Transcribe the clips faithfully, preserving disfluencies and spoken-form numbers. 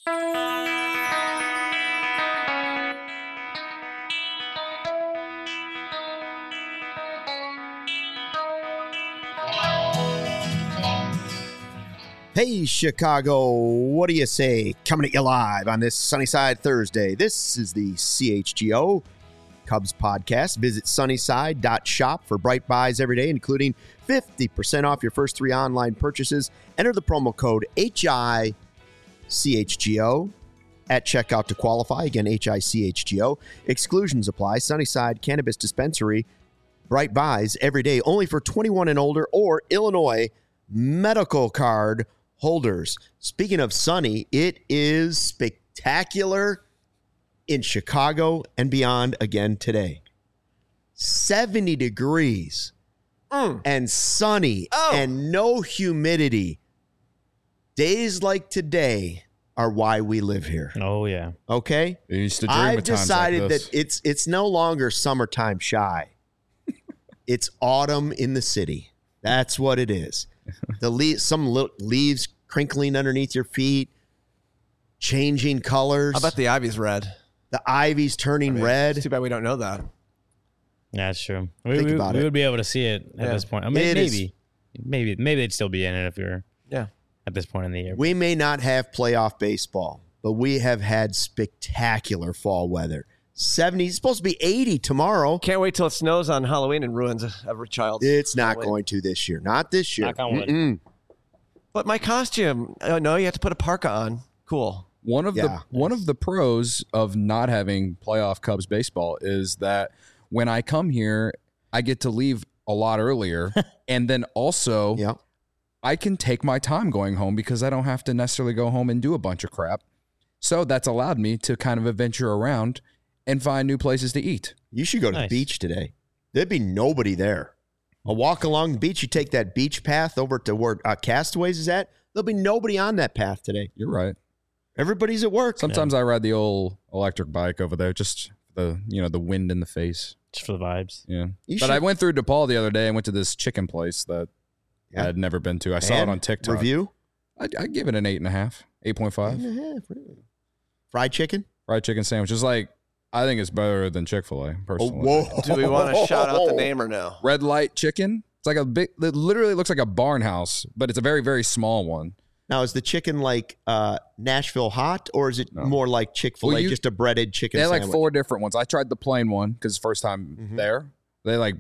Hey, Chicago, what do you say? Coming at you live on this Sunnyside Thursday. This is the C H G O Cubs podcast. Visit sunnyside dot shop for bright buys every day, including fifty percent off your first three online purchases. Enter the promo code H I C H G O at checkout to qualify. Again, H I C H G O. Exclusions apply. Sunnyside Cannabis Dispensary. Bright buys every day, only for twenty-one and older or Illinois medical card holders. Speaking of sunny, it is spectacular in Chicago and beyond again today. seventy degrees mm. and sunny oh. and no humidity. Days like today are why we live here. Oh, yeah. Okay? I used to dream I've of times decided like this. that it's it's no longer summertime shy. It's autumn in the city. That's what it is. The leaves, some little leaves crinkling underneath your feet, changing colors. I bet the ivy's red. The ivy's turning I mean, red. It's too bad we don't know that. Yeah, that's true. We, Think we, about we it. would be able to see it at yeah. this point. I mean, it maybe, is, maybe, maybe they'd still be in it if you're yeah. at this point in the year. We may not have playoff baseball, but we have had spectacular fall weather. seventy, it's supposed to be eighty tomorrow. Can't wait till it snows on Halloween and ruins every child's It's not Halloween. going to this year. Not this year. Knock on wood. Mm-mm. But my costume, oh no, you have to put a parka on. Cool. One of Yeah. the one of the pros of not having playoff Cubs baseball is that when I come here, I get to leave a lot earlier, and then also Yeah. I can take my time going home because I don't have to necessarily go home and do a bunch of crap. So that's allowed me to kind of adventure around and find new places to eat. You should go to Nice. the beach today. There'd be nobody there. A walk along the beach, you take that beach path over to where uh, Castaways is at. There'll be nobody on that path today. You're right. Everybody's at work. Sometimes I ride the old electric bike over there, just the you know the wind in the face. Just for the vibes. Yeah. You But should- I went through DePaul the other day and went to this chicken place that Yeah. I had never been to. I saw it And on TikTok. Review? I I give it an eight and a half, eight point five. Eight and a half, really. Fried chicken? Fried chicken sandwich is like I think it's better than Chick-fil-A personally. Oh, whoa. Do we want to shout out the name or no? Red Light Chicken. It's like a big. It literally looks like a barn house, but it's a very very small one. Now, is the chicken like uh, Nashville hot, or is it No. more like Chick-fil-A, Well, you- just a breaded chicken They had sandwich? like four different ones. I tried the plain one because first time Mhm. there. They like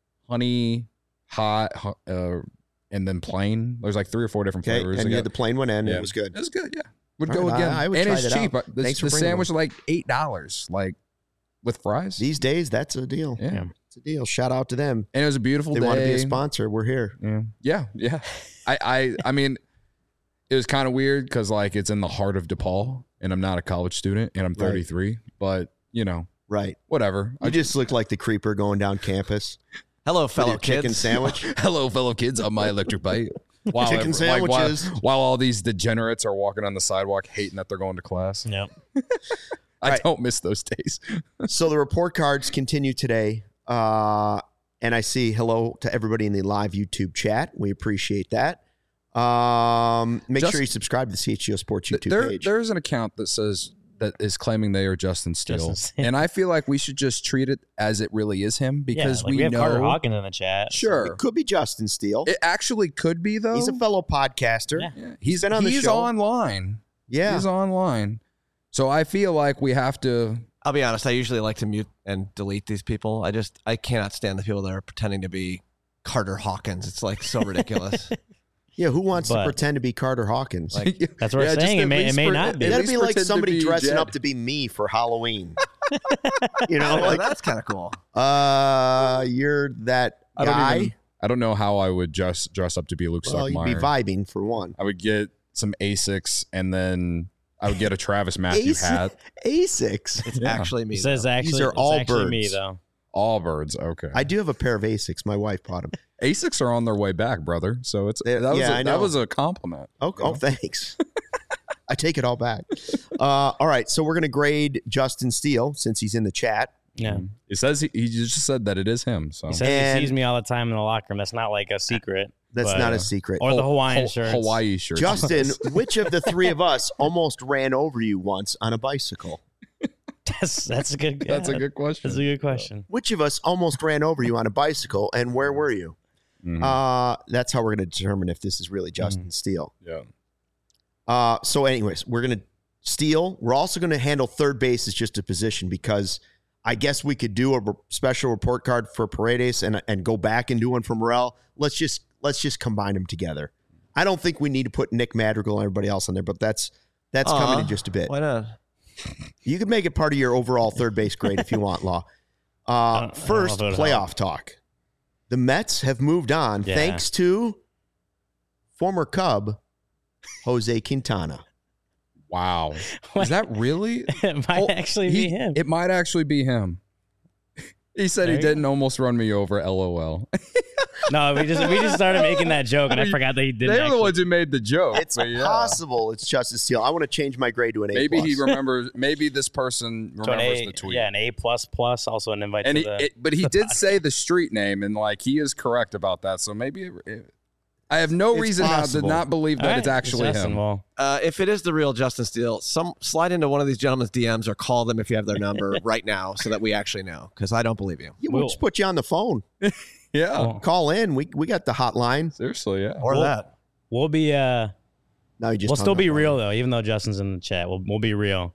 honey, hot, hu- uh, and then plain. There's like three or four different Okay, flavors. and They you had got- the plain one, and yeah. it was good. It was good. Yeah, would All go right, again. I- I would and try it's that cheap. out. The, Thanks for the bringing sandwich is like eight dollars, like with fries. These days, that's a deal. yeah. Yeah. It's a deal. Shout out to them. And it was a beautiful They day. want to be a sponsor. We're here. Yeah, yeah, yeah. I, I, I mean, it was kind of weird because like it's in the heart of DePaul, and I'm not a college student, and I'm Right. thirty-three. But you know, Right. whatever. You just look like the creeper going down campus. Hello, with fellow your chicken kids. sandwich. Hello, fellow kids on my electric bike. While Chicken every- like, while- sandwiches. while, all these degenerates are walking on the sidewalk, hating that they're going to class. Yep. I Right. don't miss those days. So the report cards continue today. Uh, and I see hello to everybody in the live YouTube chat. We appreciate that. Um, make Just- sure you subscribe to the C H G O Sports YouTube there, page. there's an account that says that is claiming they are Justin Steele, Justin Steele. and I feel like we should just treat it as it really is him because yeah, like we, we have know. Carter Hawkins in the chat. Sure, It could be Justin Steele. it actually could be though. He's a fellow podcaster. Yeah. Yeah, he's been on the he's show. online. Yeah. He's online. So I feel like we have to. I'll be honest. I usually like to mute and delete these people. I just I cannot stand the people that are pretending to be Carter Hawkins. It's like so ridiculous. Yeah, who wants to But- pretend to be Carter Hawkins? Like, That's what we're just saying. It at may- it least may pre- not be. at That'd least be like pretend to somebody be dressing Jed. up to be me for Halloween. you know, oh, like, that's kind of cool. uh, you're that I don't guy. even- I don't know how I would just dress up to be Luke Well, you'd be Stuckmeyer. vibing for one. I would get some Asics and then I would get a Travis Matthew Asi- hat. Asics. It's Yeah. actually me. It says though. actually, These are it's all actually me birds. though. All birds. Okay. I do have a pair of Asics. My wife bought them. Asics are on their way back, brother. So it's They- that was yeah, a, I know. that was a compliment. Oh, oh thanks. I take it all back. Uh, all right, so we're going to grade Justin Steele since he's in the chat. Yeah. He says he, he just said that it is him. So He says And- he sees me all the time in the locker room. That's not like a secret. That's but- not a secret. Or the Hawaiian Ho- shirts. Hawaii shirt. Justin, which of the three of us almost ran over you once on a bicycle? That's, that's a good That's yeah, a good question. That's a good question. Which of us almost ran over you on a bicycle, and where were you? Mhm. Uh, that's how we're going to determine if this is really Justin Steele. yeah. Uh, so, anyways, we're going to Steele. We're also going to handle third base as just a position because I guess we could do a re- special report card for Paredes and and go back and do one for Morel. Let's just let's just combine them together. I don't think we need to put Nick Madrigal and everybody else on there, but that's that's Aw, coming in just a bit. Why not? You can make it part of your overall third base grade if you want, Law. Uh, I don't first, know if it would playoff help. talk. The Mets have moved on Yeah. thanks to former Cub Jose Quintana. Wow. Is that really? It might Oh, actually he- be him. It might actually be him. He said There he you go. didn't almost run me over. LOL. No, we just we just started making that joke, and I forgot that he didn't. They're the actually- ones who made the joke. It's but yeah. possible it's Justice Steele. I want to change my grade to an A. Maybe he plus. remembers. Maybe this person So an remembers A, the tweet. yeah, an A plus plus, also an invite and to he, the. it, but he did say the street name, and like he is correct about that. So maybe it, it- I have no It's reason now to possible. not believe that All right, it's actually Justin, him. Well, Uh, if it is the real Justin Steele, some slide into one of these gentlemen's D Ms or call them if you have their number right now, so that we actually know. Because I don't believe you. Yeah, we'll We'll- just put you on the phone. Yeah, well, Call in. We we got the hotline. seriously, yeah. Or Well, that. we'll be uh, No, you just we'll hung still up be on real me. though, even though Justin's in the chat. We'll we'll be real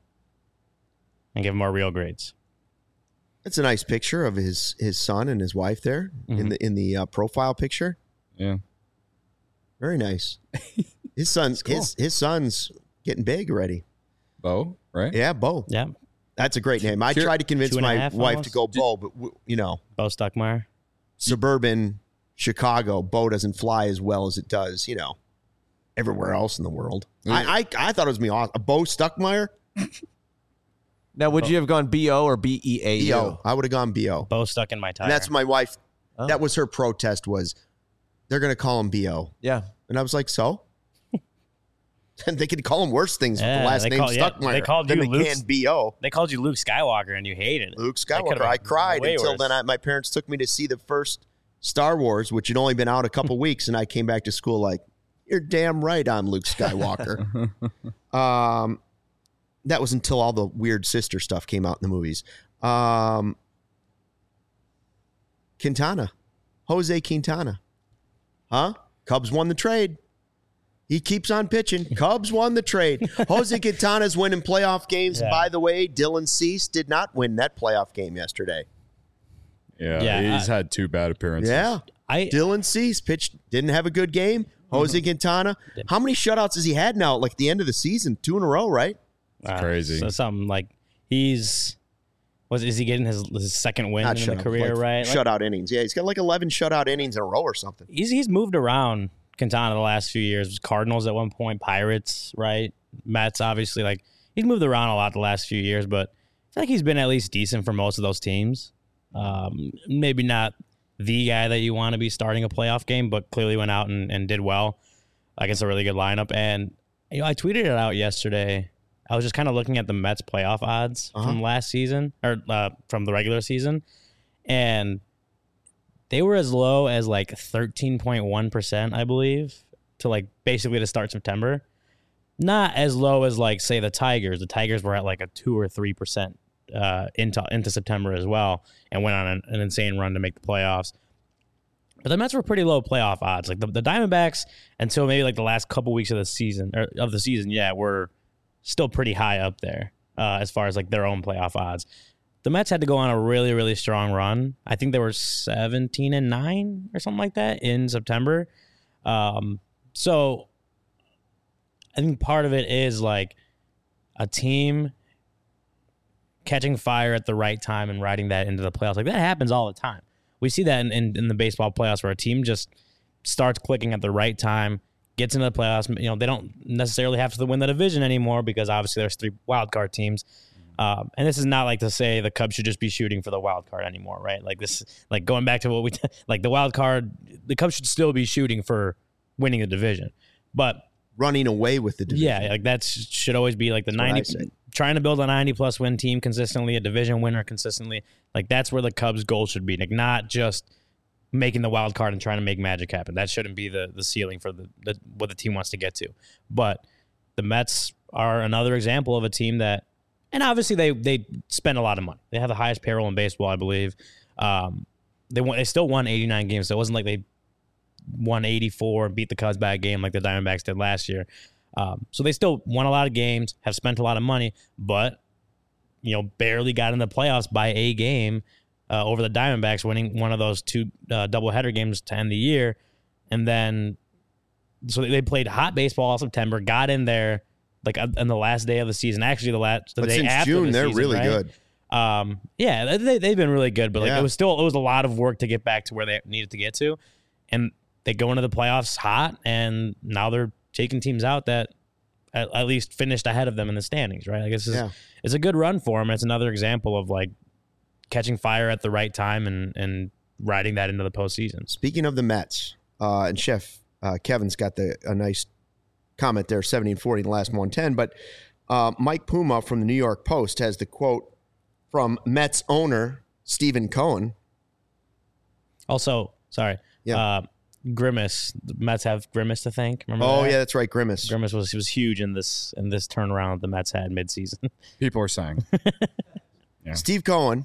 and give him our real grades. It's a nice picture of his his son and his wife there in Mhm. the in the uh, profile picture. Yeah. Very nice. His son, cool. his his son's getting big already. Bo, right? Yeah, Bo. Yeah, That's a great name. I Here- tried to convince two and a my half wife almost? to go Bo, but w- you know, Bo Stuckmeyer. suburban Chicago, Bo doesn't fly as well as it does, you know, everywhere else in the world. I, I I thought it was me awesome. Bo Stuckmeyer, Now, would you have gone B O or B E A B U? O. I would have gone B O. Bo stuck in my tire. And that's my wife. Oh. That was her protest was they're going to call him B O. Yeah. And I was like, so? And they could call him worse things with Yeah, the last they name call- yeah, Stuckmeyer they called than you they Luke- can B O. They called you Luke Skywalker, and you hated it. Luke That could've Skywalker. I been cried way until worse. then I, my parents took me to see the first Star Wars, which had only been out a couple weeks, and I came back to school like, you're damn right I'm Luke Skywalker. um, that was until all the weird sister stuff came out in the movies. Um, Quintana. Jose Quintana. Huh? Cubs won the trade. He keeps on pitching. Cubs won the trade. Jose Quintana's winning playoff games. Yeah. By the way, Dylan Cease did not win that playoff game yesterday. Yeah, Yeah, he's I- had two bad appearances. Yeah. I Dylan Cease pitched, didn't have a good game. Jose Quintana. How many shutouts has he had now? Like the end of the season? Two in a row, right? uh, crazy. So something like he's was is he getting his, his second win Not in shutout, the career? like right, Like, Shutout innings. Yeah, he's got like eleven shutout innings in a row or something. he's he's moved around Quintana the last few years. Cardinals at one point, Pirates, right? Mets, obviously. Like he's moved around a lot the last few years, but I feel like he's been at least decent for most of those teams. Um, maybe not the guy that you want to be starting a playoff game, but clearly went out and, and did well against a really good lineup. And you know, I tweeted it out yesterday. I was just kind of looking at the Mets playoff odds Uh-huh. from last season or uh, from the regular season, and they were as low as like thirteen point one percent, I believe, to like basically to start September. Not as low as like say the Tigers. The Tigers were at like a two or three percent uh, into into September as well, and went on an, an insane run to make the playoffs. But the Mets were pretty low playoff odds. Like the, the Diamondbacks until maybe like the last couple weeks of the season or of the season, yeah, were still pretty high up there uh, as far as like their own playoff odds. The Mets had to go on a really, really strong run. I think they were seventeen and nine or something like that in September. Um, so I think part of it is like a team catching fire at the right time and riding that into the playoffs. Like that happens all the time. We see that in, in, in the baseball playoffs where a team just starts clicking at the right time, gets into the playoffs. You know, they don't necessarily have to win the division anymore because obviously there's three wild card teams. Um, and this is not like to say the Cubs should just be shooting for the wild card anymore, right? Like this, like going back to what we like the wild card, the Cubs should still be shooting for winning the division. But running away with the division. Yeah, like that should always be like the That's what I ninety. say. Trying to build a ninety plus win team consistently, a division winner consistently. Like that's where the Cubs' goal should be. Like not just making the wild card and trying to make magic happen. That shouldn't be the the ceiling for the, the what the team wants to get to. But the Mets are another example of a team that, and obviously they they spend a lot of money. They have the highest payroll in baseball, I believe. Um, they won. They still won eighty-nine games, so it wasn't like they won eighty-four and beat the Cubs by a game like the Diamondbacks did last year. Um, so they still won a lot of games, have spent a lot of money, but you know barely got in the playoffs by a game uh, over the Diamondbacks, winning one of those two uh, doubleheader games to end the year, and then so they played hot baseball all September, got in there like on the last day of the season. Actually, the last the But day since after June, the they're season, really right? good. Um, yeah, they they've been really good, but like Yeah. it was still it was a lot of work to get back to where they needed to get to, and they go into the playoffs hot, and now they're taking teams out that at, at least finished ahead of them in the standings, right? Like this is Yeah. it's a good run for them. It's another example of like catching fire at the right time and and riding that into the postseason. Speaking of the Mets, uh, and Chef uh, Kevin's got the a nice comment there, seventy and forty in the last one ten. But uh, Mike Puma from the New York Post has the quote from Mets owner Stephen Cohen. Also, sorry, Yeah. uh, Grimace. The Mets have Grimace to thank. Remember Oh that? yeah, that's right, Grimace. Grimace was was huge in this in this turnaround the Mets had midseason. People are saying. Yeah. Steve Cohen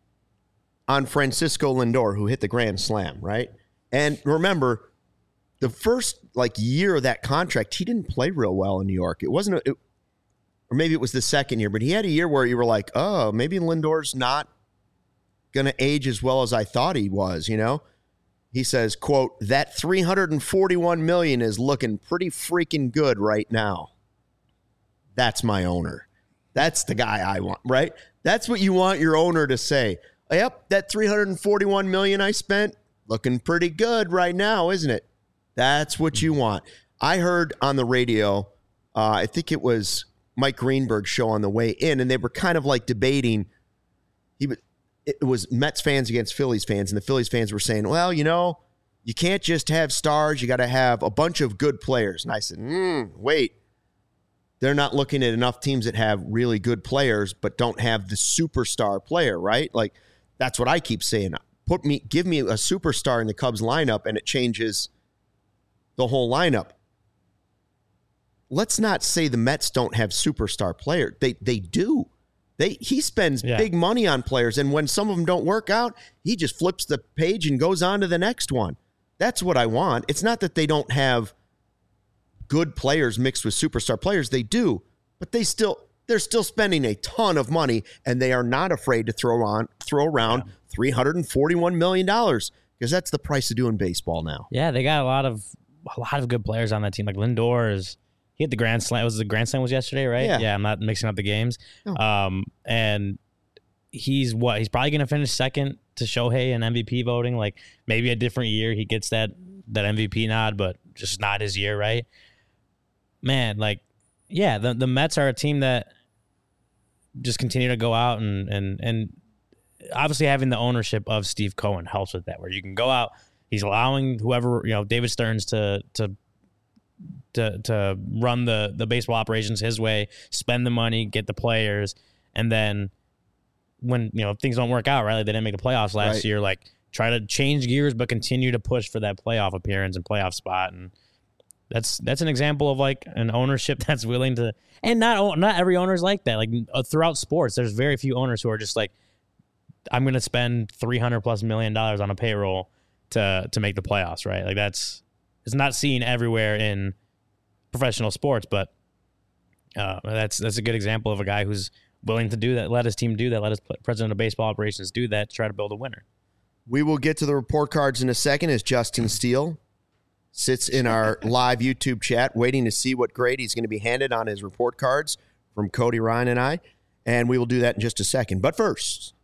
on Francisco Lindor, who hit the grand slam, right? And remember, the first like year of that contract, he didn't play real well in New York. It wasn't, a, it, or maybe it was the second year, but he had a year where you were like, oh, maybe Lindor's not going to age as well as I thought he was, you know? He says, quote, that three hundred forty-one million dollars is looking pretty freaking good right now. That's my owner. That's the guy I want, right? That's what you want your owner to say. Yep, that three hundred forty-one million dollars I spent, looking pretty good right now, isn't it? That's what you want. I heard on the radio, uh, I think it was Mike Greenberg's show on the way in, and they were kind of like debating. He was, it was Mets fans against Phillies fans, and the Phillies fans were saying, well, you know, you can't just have stars. You got to have a bunch of good players. And I said, mm, wait. They're not looking at enough teams that have really good players but don't have the superstar player, right? Like, that's what I keep saying. Put me, give me a superstar in the Cubs lineup, and it changes the whole lineup. Let's not say the Mets don't have superstar players. They they do. They he spends Yeah. big money on players, and when some of them don't work out, he just flips the page and goes on to the next one. That's what I want. It's not that they don't have good players mixed with superstar players. They do, but they still they're still spending a ton of money, and they are not afraid to throw on throw around Yeah. three hundred forty-one million dollars because that's the price of doing baseball now. Yeah, they got a lot of a lot of good players on that team. Like Lindor is he hit the grand slam. Was the grand slam was yesterday, right? Yeah. Yeah, I'm not mixing up the games. No. Um, and he's what he's probably gonna finish second to Shohei in M V P voting. Like maybe a different year he gets that that M V P nod, but just not his year, right? Man, like yeah, the the Mets are a team that just continue to go out and and and obviously having the ownership of Steve Cohen helps with that, where you can go out. He's allowing whoever, you know, David Stearns to to to to run the the baseball operations his way, spend the money, get the players, and then when, you know, things don't work out, right? Like they didn't make the playoffs last Right. year, like try to change gears but continue to push for that playoff appearance and playoff spot. And that's that's an example of like an ownership that's willing to, and not not every owner is like that. Like uh, throughout sports, there's very few owners who are just like, I'm going to spend three hundred plus million dollars on a payroll to to make the playoffs, right? Like that's it's not seen everywhere in professional sports, but uh, that's that's a good example of a guy who's willing to do that, let his team do that, let his president of baseball operations do that to try to build a winner. We will get to the report cards in a second as Justin Steele sits in our live YouTube chat waiting to see what grade he's going to be handed on his report cards from Cody, Ryan, and I. And we will do that in just a second. But first,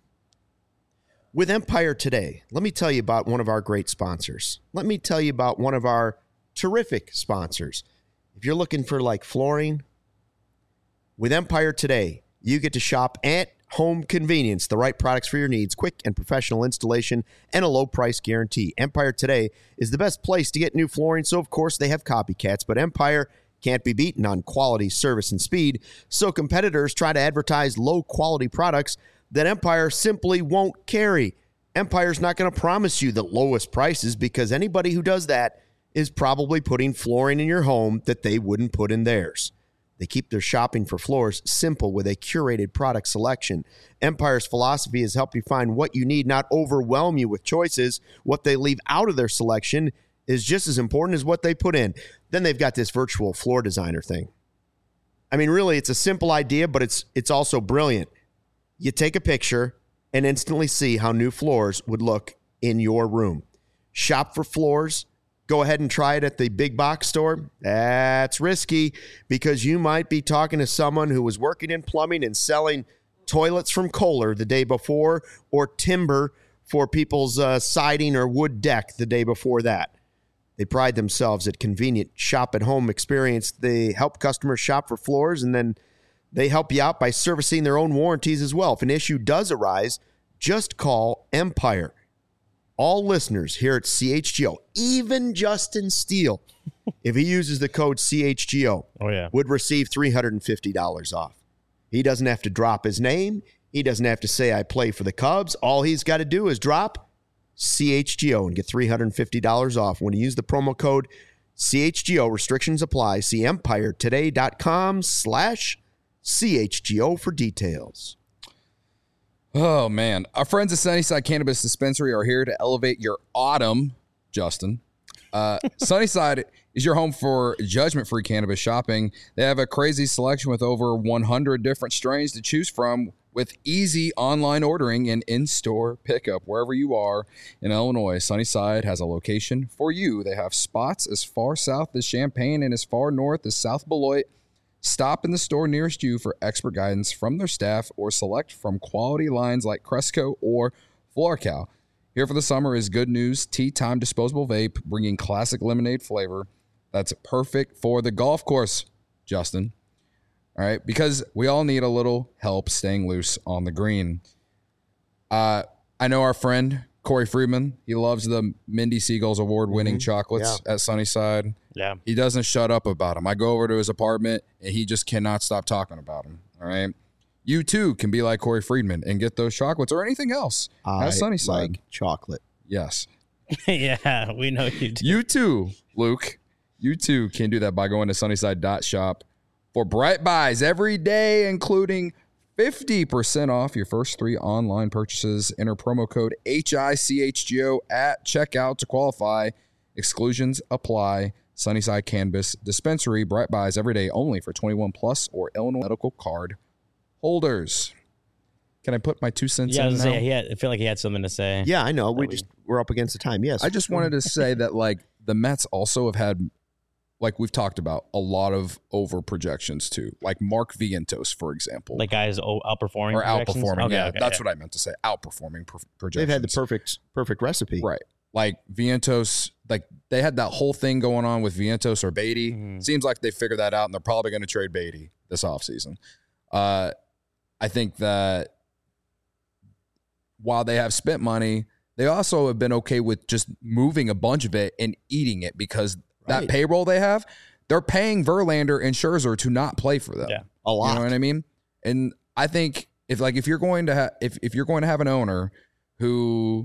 with Empire Today, let me tell you about one of our great sponsors. Let me tell you about one of our terrific sponsors. If you're looking for like flooring, with Empire Today, you get to shop at home convenience, the right products for your needs, quick and professional installation, and a low price guarantee. Empire Today is the best place to get new flooring, so of course they have copycats, but Empire can't be beaten on quality, service, and speed, so competitors try to advertise low-quality products that Empire simply won't carry. Empire's not going to promise you the lowest prices because anybody who does that is probably putting flooring in your home that they wouldn't put in theirs. They keep their shopping for floors simple with a curated product selection. Empire's philosophy has helped you find what you need, not overwhelm you with choices. What they leave out of their selection is just as important as what they put in. Then they've got this virtual floor designer thing. I mean, really, it's a simple idea, but it's it's also brilliant. You take a picture and instantly see how new floors would look in your room. Shop for floors. Go ahead and try it at the big box store. That's risky because you might be talking to someone who was working in plumbing and selling toilets from Kohler the day before or timber for people's uh, siding or wood deck the day before that. They pride themselves at convenient shop-at-home experience. They help customers shop for floors, and then they help you out by servicing their own warranties as well. If an issue does arise, just call Empire. All listeners here at C H G O, even Justin Steele, if he uses the code C H G O, oh, yeah. would receive three hundred fifty dollars off. He doesn't have to drop his name. He doesn't have to say, I play for the Cubs. All he's got to do is drop C H G O and get three hundred fifty dollars off when you use the promo code C H G O. Restrictions apply. See empiretoday.com slash CHGO for details. Oh, man. Our friends at Sunnyside Cannabis Dispensary are here to elevate your autumn, Justin. Uh, Sunnyside is your home for judgment-free cannabis shopping. They have a crazy selection with over one hundred different strains to choose from with easy online ordering and in-store pickup wherever you are in Illinois. Sunnyside has a location for you. They have spots as far south as Champaign and as far north as South Beloit. Stop in the store nearest you for expert guidance from their staff or select from quality lines like Cresco or FloraCal. Here for the summer is Good News Tea Time Disposable Vape, bringing classic lemonade flavor that's perfect for the golf course, Justin. All right, because we all need a little help staying loose on the green. Uh, I know our friend Corey Friedman, he loves the Mindy Seagulls award-winning mm-hmm. chocolates yeah. at Sunnyside. Yeah. He doesn't shut up about them. I go over to his apartment, and he just cannot stop talking about them, all right? You, too, can be like Corey Friedman and get those chocolates or anything else I at Sunnyside. Like chocolate. Yes. Yeah, we know you do. You, too, Luke. You, too, can do that by going to sunnyside dot shop for bright buys every day, including fifty percent off your first three online purchases. Enter promo code H I C H G O at checkout to qualify. Exclusions apply. Sunnyside Cannabis Dispensary. Bright buys every day only for twenty-one plus or Illinois medical card holders. Can I put my two cents yeah, in I was now? Say, he had, I feel like he had something to say. Yeah, I know. We just we're up against the time. Yes. I just wanted to say that like the Mets also have had, like we've talked about, a lot of over projections too. Like Mark Vientos, for example. Like guys outperforming or projections? outperforming. Okay, yeah, okay, that's yeah. what I meant to say. Outperforming pro- projections. They've had the perfect perfect recipe. Right. Like Vientos, like they had that whole thing going on with Vientos or Beatty. Mm-hmm. Seems like they figured that out, and they're probably going to trade Beatty this offseason. Uh, I think that while they have spent money, they also have been okay with just moving a bunch of it and eating it because Right. that payroll they have, they're paying Verlander and Scherzer to not play for them. Yeah. A lot. You know what I mean? And I think if like if you're going to have if if you're going to have an owner who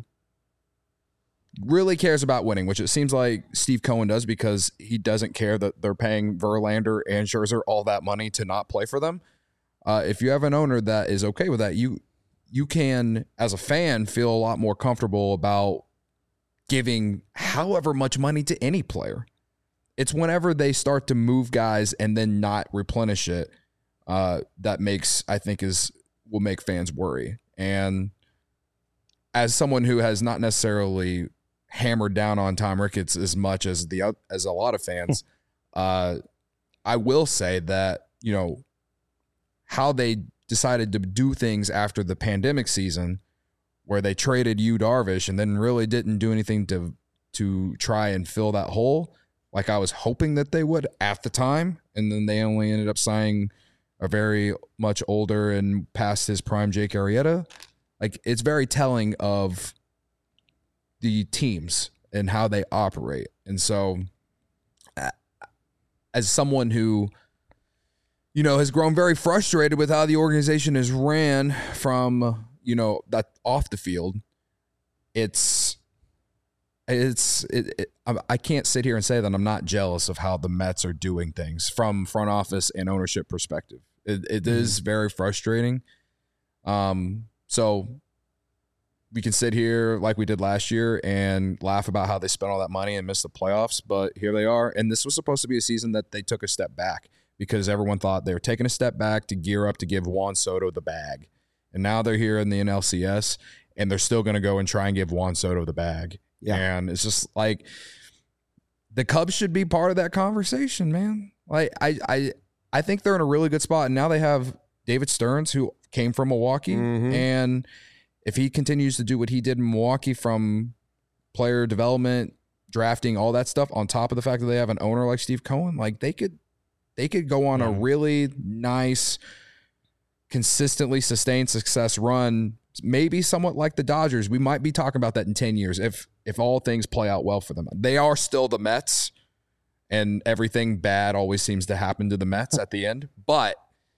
really cares about winning, which it seems like Steve Cohen does because he doesn't care that they're paying Verlander and Scherzer all that money to not play for them. Uh, if you have an owner that is okay with that, you you can, as a fan, feel a lot more comfortable about giving however much money to any player. It's whenever they start to move guys and then not replenish it uh, that makes, I think, is will make fans worry. And as someone who has not necessarily hammered down on Tom Ricketts as much as the as a lot of fans, uh, I will say that, you know, how they decided to do things after the pandemic season where they traded Yu Darvish and then really didn't do anything to to try and fill that hole like I was hoping that they would at the time. And then they only ended up signing a very much older and past his prime Jake Arrieta. Like, it's very telling of the teams and how they operate. And so as someone who, you know, has grown very frustrated with how the organization is ran from, you know, that off the field, it's, it's, it, it, I can't sit here and say that I'm not jealous of how the Mets are doing things from front office and ownership perspective. It, it mm-hmm. is very frustrating. Um, so we can sit here like we did last year and laugh about how they spent all that money and missed the playoffs, but here they are. And this was supposed to be a season that they took a step back because everyone thought they were taking a step back to gear up to give Juan Soto the bag. And now they're here in the N L C S, and they're still going to go and try and give Juan Soto the bag. Yeah. And it's just like the Cubs should be part of that conversation, man. Like I, I, I think they're in a really good spot. And now they have David Stearns, who came from Milwaukee. Mm-hmm. And if he continues to do what he did in Milwaukee from player development, drafting, all that stuff, on top of the fact that they have an owner like Steve Cohen, like they could, they could go on yeah. a really nice, consistently sustained success run. Maybe somewhat like the Dodgers. We might be talking about that in ten years if if all things play out well for them. They are still the Mets, and everything bad always seems to happen to the Mets at the end. But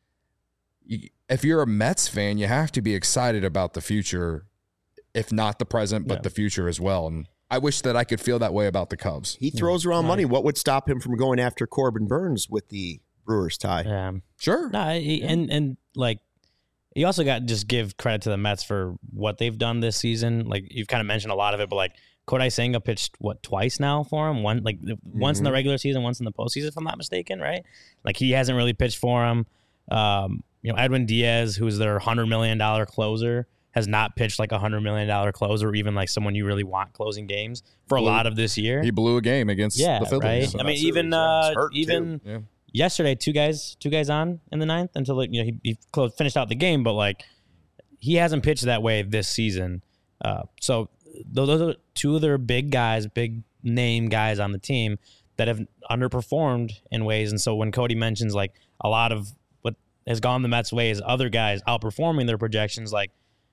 if you're a Mets fan, you have to be excited about the future, if not the present, but yeah. the future as well. And I wish that I could feel that way about the Cubs. He throws yeah. around money. What would stop him from going after Corbin Burns with the Brewers tie? Yeah. Sure. No, he, and and like, you also got to just give credit to the Mets for what they've done this season. Like, you've kind of mentioned a lot of it, but like Kodai Senga pitched what twice now for him. One like mm-hmm. once in the regular season, once in the postseason, if I'm not mistaken, right? Like, he hasn't really pitched for him. Um, you know, Edwin Diaz, who's their hundred million dollar closer, has not pitched like a hundred million dollar closer, or even like someone you really want closing games for a lot of this year. He blew a game against yeah, the Phillies. Right? So I mean, even uh, even. Yeah. Yesterday, two guys, two guys on in the ninth until like, you know he, he closed, finished out the game, but like he hasn't pitched that way this season. Uh, so those are two of their big guys, big name guys on the team that have underperformed in ways. And so when Cody mentions like a lot of what has gone the Mets' way is other guys outperforming their projections, like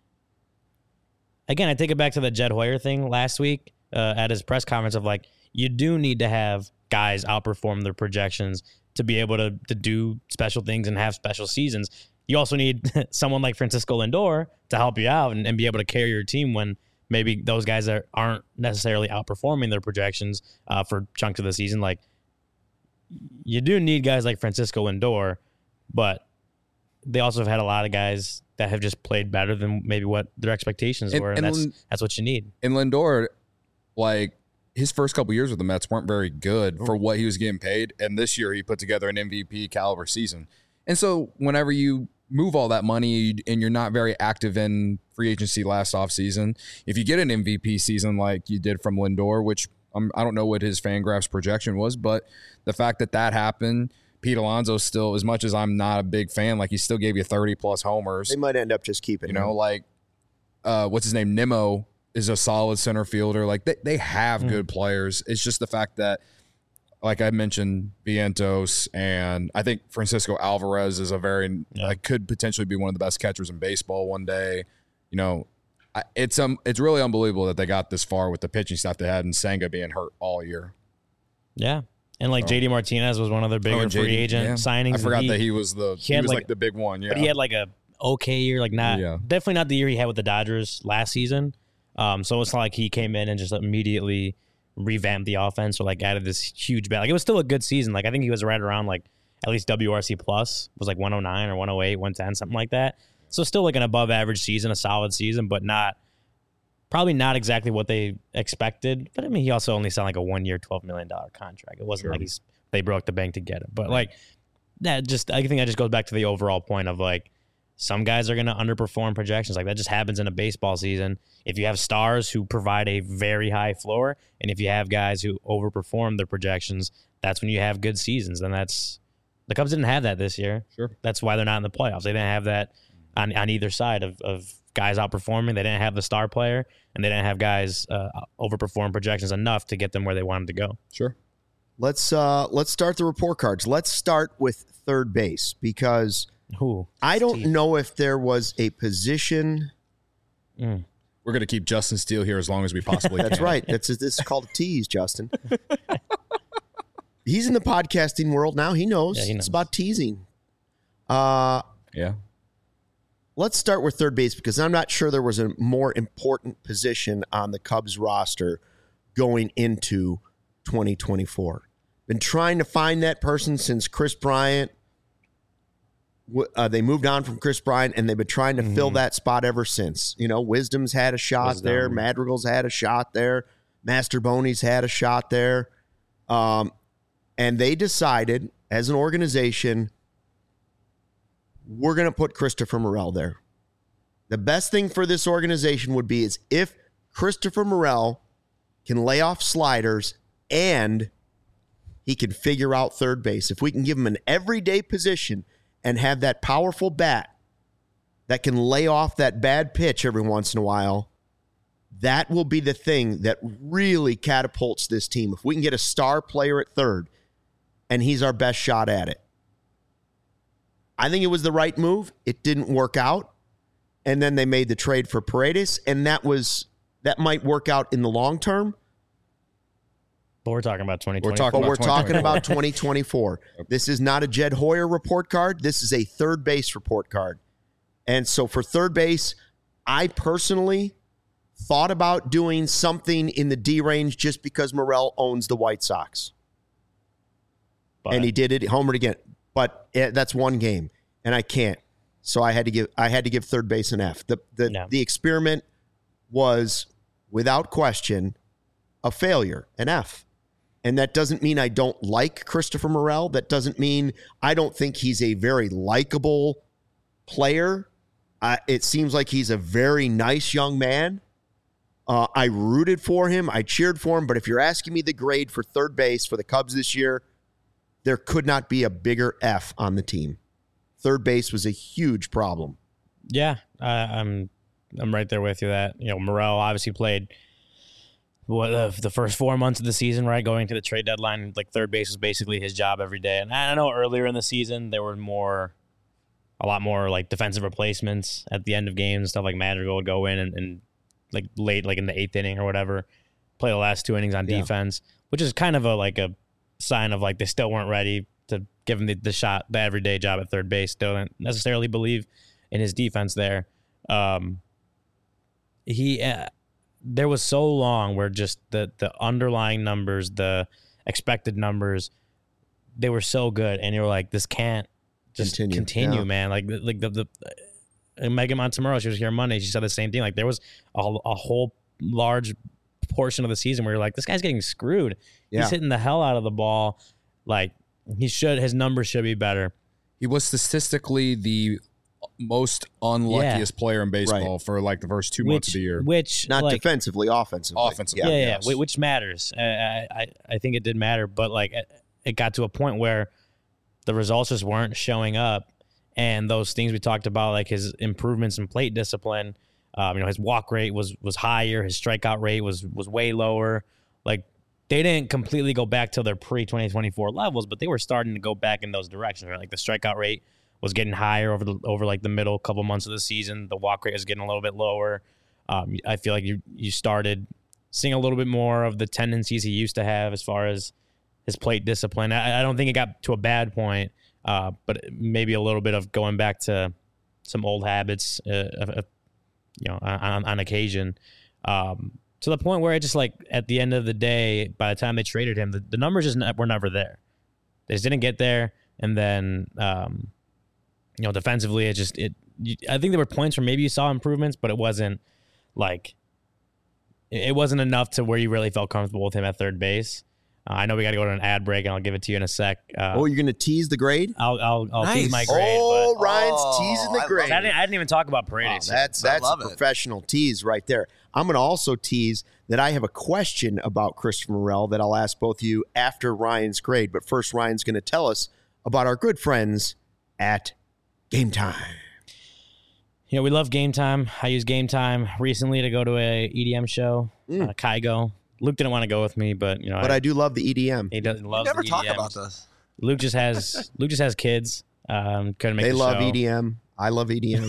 again, I take it back to the Jed Hoyer thing last week uh, at his press conference of like you do need to have guys outperform their projections to be able to to do special things and have special seasons. You also need someone like Francisco Lindor to help you out and, and be able to carry your team when maybe those guys are, aren't necessarily outperforming their projections uh, for chunks of the season. Like, you do need guys like Francisco Lindor, but they also have had a lot of guys that have just played better than maybe what their expectations and, were, and, and that's Lind- that's what you need. And Lindor, like, his first couple years with the Mets weren't very good for what he was getting paid. And this year he put together an M V P caliber season. And so whenever you move all that money and you're not very active in free agency last offseason, if you get an M V P season like you did from Lindor, which um, I don't know what his Fangraphs projection was, but the fact that that happened, Pete Alonso still, as much as I'm not a big fan, like he still gave you thirty plus homers. They might end up just keeping You know, him. like, uh, what's his name? Nimmo is a solid center fielder. Like they, they have mm. good players. It's just the fact that, like I mentioned, Vientos and I think Francisco Alvarez is a very yeah. like could potentially be one of the best catchers in baseball one day. You know, I, it's um it's really unbelievable that they got this far with the pitching staff they had and Senga being hurt all year. Yeah. And like oh. J D Martinez was one of their bigger oh, free agent yeah. signings. I forgot he, that he was the he, he was like, like the big one. Yeah. But he had like a okay year, like not yeah. definitely not the year he had with the Dodgers last season. Um, so it's not like he came in and just immediately revamped the offense or like added this huge bat. Like it was still a good season. Like I think he was right around like at least W R C plus was like one oh nine or one oh eight, one ten, something like that. So still like an above average season, a solid season, but not probably not exactly what they expected. But I mean, he also only signed like a one year, twelve million dollars contract. It wasn't sure. like he's they broke the bank to get him. But like that just I think that just goes back to the overall point of like some guys are going to underperform projections. Like that just happens in a baseball season. If you have stars who provide a very high floor, and if you have guys who overperform their projections, that's when you have good seasons. And that's the Cubs didn't have that this year. Sure. That's why they're not in the playoffs. They didn't have that on, on either side of, of guys outperforming. They didn't have the star player, and they didn't have guys uh, overperform projections enough to get them where they wanted to go. Sure. Let's uh, let's start the report cards. Let's start with third base because Who? I don't Steve. know if there was a position. Mm. We're going to keep Justin Steele here as long as we possibly can. That's right. That's this is called a tease, Justin. He's in the podcasting world now. He knows. Yeah, he knows. It's about teasing. Uh, Yeah. let's start with third base because I'm not sure there was a more important position on the Cubs roster going into twenty twenty-four. Been trying to find that person since Chris Bryant. Uh, they moved on from Chris Bryant, and they've been trying to mm-hmm. fill that spot ever since. You know, Wisdom's had a shot Wisdom. there. Madrigal's had a shot there. Master Boney's had a shot there. Um, and they decided, as an organization, we're going to put Christopher Morel there. The best thing for this organization would be is if Christopher Morel can lay off sliders and he can figure out third base. If we can give him an everyday position and have that powerful bat that can lay off that bad pitch every once in a while, that will be the thing that really catapults this team. If we can get a star player at third and he's our best shot at it. I think it was the right move. It didn't work out. And then they made the trade for Paredes, and that was that might work out in the long term. But we're talking about twenty twenty-four. We're talking but about we're talking about twenty twenty-four. This is not a Jed Hoyer report card. This is a third base report card. And so for third base, I personally thought about doing something in the D range just because Morel owns the White Sox. But, and he did it, homered again. But that's one game, and I can't. So I had to give I had to give third base an F. The the no. the experiment was, without question, a failure, an F. And that doesn't mean I don't like Christopher Morel. That doesn't mean I don't think he's a very likable player. Uh, it seems like he's a very nice young man. Uh, I rooted for him. I cheered for him. But if you're asking me the grade for third base for the Cubs this year, there could not be a bigger F on the team. Third base was a huge problem. Yeah, uh, I'm I'm right there with you. That you know, Morel obviously played what uh, the first four months of the season, right? Going to the trade deadline, like third base was basically his job every day. And I know earlier in the season there were more, a lot more like defensive replacements at the end of games and stuff. Like Madrigal would go in and, and like late, like in the eighth inning or whatever, play the last two innings on yeah. defense, which is kind of a like a sign of like they still weren't ready to give him the, the shot, the everyday job at third base. Still don't necessarily believe in his defense there. Um, he, uh, there was so long where just the the underlying numbers, the expected numbers, they were so good, and you were like, this can't just continue, continue yeah. man. Like like the the uh, Megan Montemurro, she was here Monday. She said the same thing. Like there was a, a whole large portion of the season where you're like, this guy's getting screwed. Yeah. He's hitting the hell out of the ball. Like he should, his numbers should be better. He was statistically the most unluckiest yeah. player in baseball right. for like the first two which, months of the year. Which not like, defensively, offensively. Offensively, yeah, yeah, yes. yeah, which matters. Uh, I I think it did matter, but like it got to a point where the results just weren't showing up, and those things we talked about, like his improvements in plate discipline, um, you know, his walk rate was was higher, his strikeout rate was was way lower. Like they didn't completely go back to their pre twenty twenty-four levels, but they were starting to go back in those directions. Right? Like the strikeout rate was getting higher over the over like the middle couple months of the season. The walk rate was getting a little bit lower. Um, I feel like you you started seeing a little bit more of the tendencies he used to have as far as his plate discipline. I, I don't think it got to a bad point, uh, but maybe a little bit of going back to some old habits, uh, uh, you know, on, on occasion. Um, to the point where it just like at the end of the day, by the time they traded him, the, the numbers just ne- were never there. They just didn't get there, and then. Um, You know, defensively, it just it. You, I think there were points where maybe you saw improvements, but it wasn't like it wasn't enough to where you really felt comfortable with him at third base. Uh, I know we got to go to an ad break, and I'll give it to you in a sec. Uh, oh, you're going to tease the grade? I'll I'll, I'll Nice. tease my grade. Oh, but, Ryan's Oh, teasing the I grade. I didn't, I didn't even talk about Paredes. Oh, that's I that's a love it. professional tease right there. I'm going to also tease that I have a question about Christopher Morel that I'll ask both of you after Ryan's grade. But first, Ryan's going to tell us about our good friends at Game Time. You know, we love Game Time. I used Game Time recently to go to a E D M show, Mm. uh, Kygo. Luke didn't want to go with me, but you know, But I do love the E D M. he doesn't love never the talk E D Ms. about this. Luke just has Luke just has kids. Um, couldn't make They the love show. E D M. I love E D M.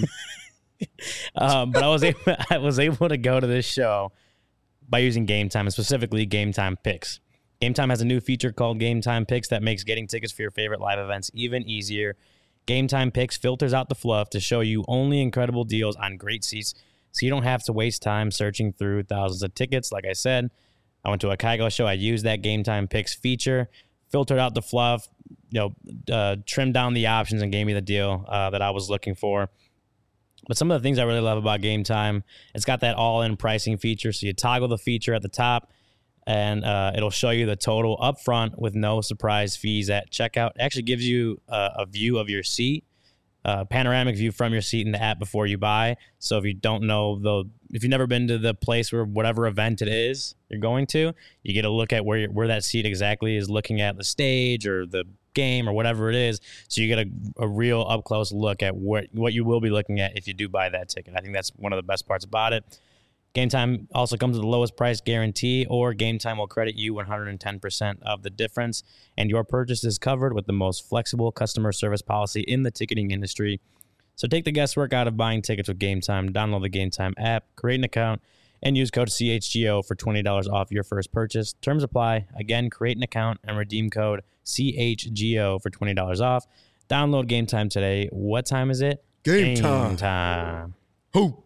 um, but I was able, I was able to go to this show by using Game Time, and specifically Game Time Picks. Game Time has a new feature called Game Time Picks that makes getting tickets for your favorite live events even easier. Game Time Picks filters out the fluff to show you only incredible deals on great seats, so you don't have to waste time searching through thousands of tickets. Like I said, I went to a Kygo show. I used that Game Time Picks feature, filtered out the fluff, you know, uh, trimmed down the options, and gave me the deal uh, that I was looking for. But some of the things I really love about Game Time, it's got that all-in pricing feature. So you toggle the feature at the top, and uh, it'll show you the total up front with no surprise fees at checkout. It actually gives you a, a view of your seat, a panoramic view from your seat in the app before you buy. So if you don't know, the if you've never been to the place where whatever event it is you're going to, you get a look at where where that seat exactly is, looking at the stage or the game or whatever it is. So you get a, a real up-close look at what, what you will be looking at if you do buy that ticket. I think that's one of the best parts about it. Game Time also comes with the lowest price guarantee, or Game Time will credit you one hundred ten percent of the difference, and your purchase is covered with the most flexible customer service policy in the ticketing industry. So take the guesswork out of buying tickets with Game Time. Download the Game Time app, create an account, and use code C H G O for twenty dollars off your first purchase. Terms apply. Again, create an account and redeem code C H G O for twenty dollars off. Download Game Time today. What time is it? Game time. time. Who?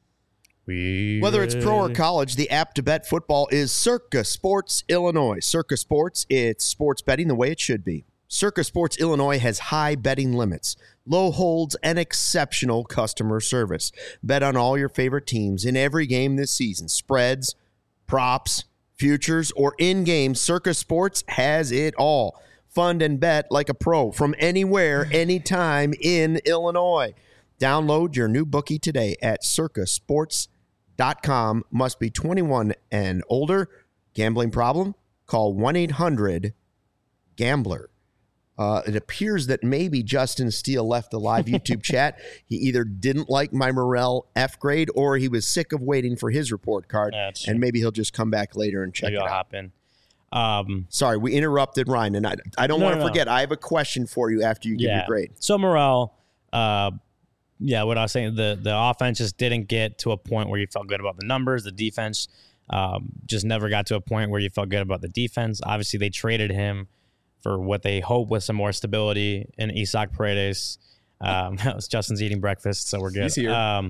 We Whether it's pro or ready? college, the app to bet football is Circa Sports Illinois. Circa Sports, it's sports betting the way it should be. Circa Sports Illinois has high betting limits, low holds, and exceptional customer service. Bet on all your favorite teams in every game this season. Spreads, props, futures, or in-game, Circa Sports has it all. Fund and bet like a pro from anywhere, anytime in Illinois. Download your new bookie today at circa sports dot com. Must be twenty-one and older. Gambling problem? Call one eight hundred gambler. Uh, it appears that maybe Justin Steele left the live YouTube chat. He either didn't like my Morel F grade, or he was sick of waiting for his report card, Yeah, that's and true. maybe he'll just come back later and check Maybe it I'll out. hop in. Um, Sorry, we interrupted Ryan, and I, I don't No, want to no, no. forget. I have a question for you after you give yeah. your grade. So Morel, uh, yeah, what I was saying, the the offense just didn't get to a point where you felt good about the numbers. The defense um, just never got to a point where you felt good about the defense. Obviously, they traded him for what they hope was some more stability in Isaac Paredes. Um, Justin's eating breakfast, so we're good. He's here. Um,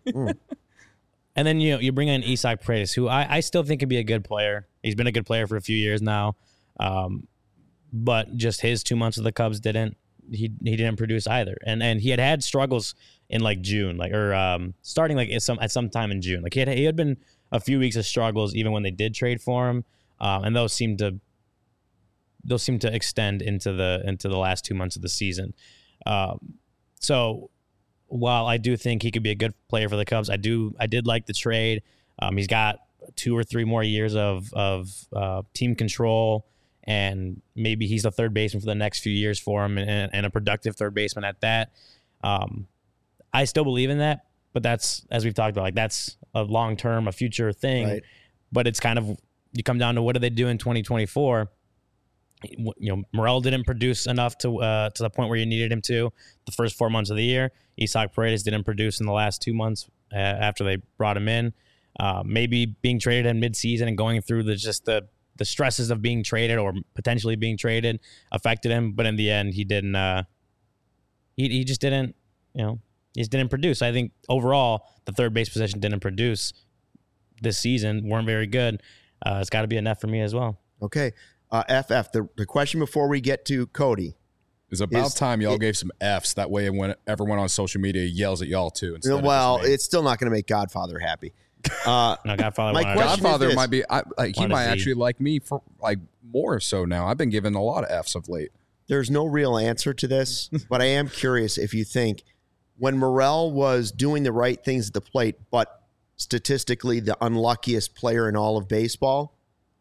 and then you know, you bring in Isaac Paredes, who I, I still think could be a good player. He's been a good player for a few years now, um, but just his two months with the Cubs didn't. He he didn't produce either, and and he had had struggles in like June, like or um, starting like at some at some time in June. Like he had he had been a few weeks of struggles even when they did trade for him, um, and those seemed to those seem to extend into the into the last two months of the season. Um, so while I do think he could be a good player for the Cubs, I do I did like the trade. Um, he's got two or three more years of of uh, team control, and maybe he's the third baseman for the next few years for him, and, and a productive third baseman at that. Um, I still believe in that, but that's, as we've talked about, like that's a long term, a future thing. Right. But it's kind of, you come down to what do they do in twenty twenty-four? You know, Morel didn't produce enough to uh, to the point where you needed him to the first four months of the year. Isaac Paredes didn't produce in the last two months uh, after they brought him in. Uh, maybe being traded in midseason and going through the just the the stresses of being traded or potentially being traded affected him, but in the end, he didn't. Uh, he he just didn't. You know, he just didn't produce. I think overall, the third base position didn't produce this season. Weren't very good. Uh, it's got to be an F for me as well. Okay. Uh, F F, the, the question before we get to Cody. It's about Is- time y'all it- gave some Fs. That way, when everyone on social media yells at y'all too. instead of Well, just me. it's still not going to make Godfather happy. Uh, No, Godfather. My wanted- question- is Godfather this. might be. I, like he Wanted might Z. actually like me for like more so now. I've been given a lot of Fs of late. there's no real answer to this, but I am curious if you think when Morel was doing the right things at the plate, but statistically the unluckiest player in all of baseball,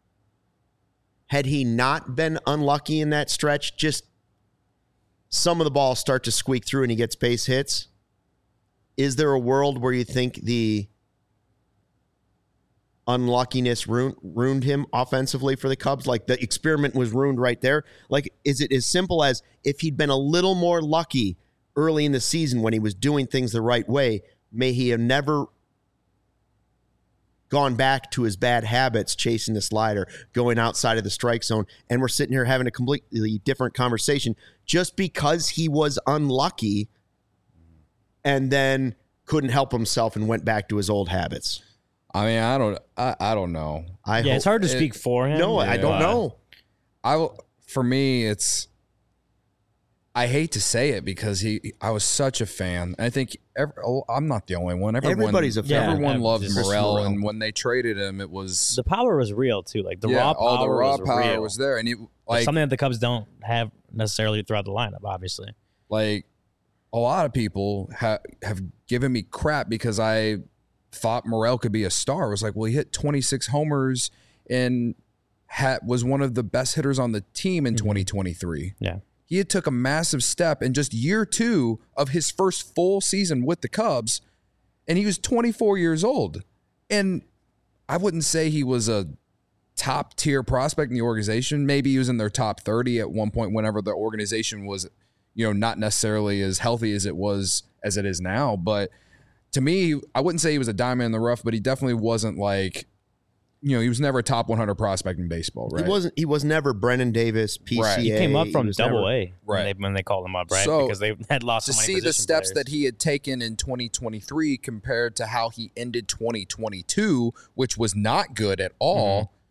had he not been unlucky in that stretch, just some of the balls start to squeak through and he gets base hits, is there a world where you think the unluckiness ruined, ruined him offensively for the Cubs? Like the experiment was ruined right there. Like, is it as simple as if he'd been a little more lucky early in the season when he was doing things the right way, may he have never gone back to his bad habits, chasing the slider, going outside of the strike zone, and we're sitting here having a completely different conversation just because he was unlucky and then couldn't help himself and went back to his old habits. I mean, I don't, I, I don't know. I yeah, hope, it's hard to it, speak for him. No, I don't but- know. I will, for me, it's, I hate to say it because he, I was such a fan. I think every, oh, I'm not the only one. Everyone, Everybody's a fan. Yeah, Everyone yeah, loved just Morel, Morel. and when they traded him, it was The power was real too. Like the yeah, raw power, all the raw was power real. was there, and it, It's like something that the Cubs don't have necessarily throughout the lineup. Obviously, like a lot of people ha- have given me crap because I thought Morel could be a star. I was like, well, he hit twenty-six homers and had, was one of the best hitters on the team in Mhm. twenty twenty-three. yeah. He had took a massive step in just year two of his first full season with the Cubs, and he was twenty-four years old. And I wouldn't say he was a top tier prospect in the organization. Maybe he was in their top thirty at one point whenever the organization was, you know, not necessarily as healthy as it was as it is now. But to me, I wouldn't say he was a diamond in the rough, but he definitely wasn't like, you know, he was never a top one hundred prospect in baseball, right? He wasn't. He was never Brennan Davis, P C A. Right. He came up from was Double never- A when, Right. they, when they called him up, right? So, because they had lost to so many see the position steps players. that he had taken in twenty twenty-three compared to how he ended twenty twenty-two, which was not good at all. Mm-hmm.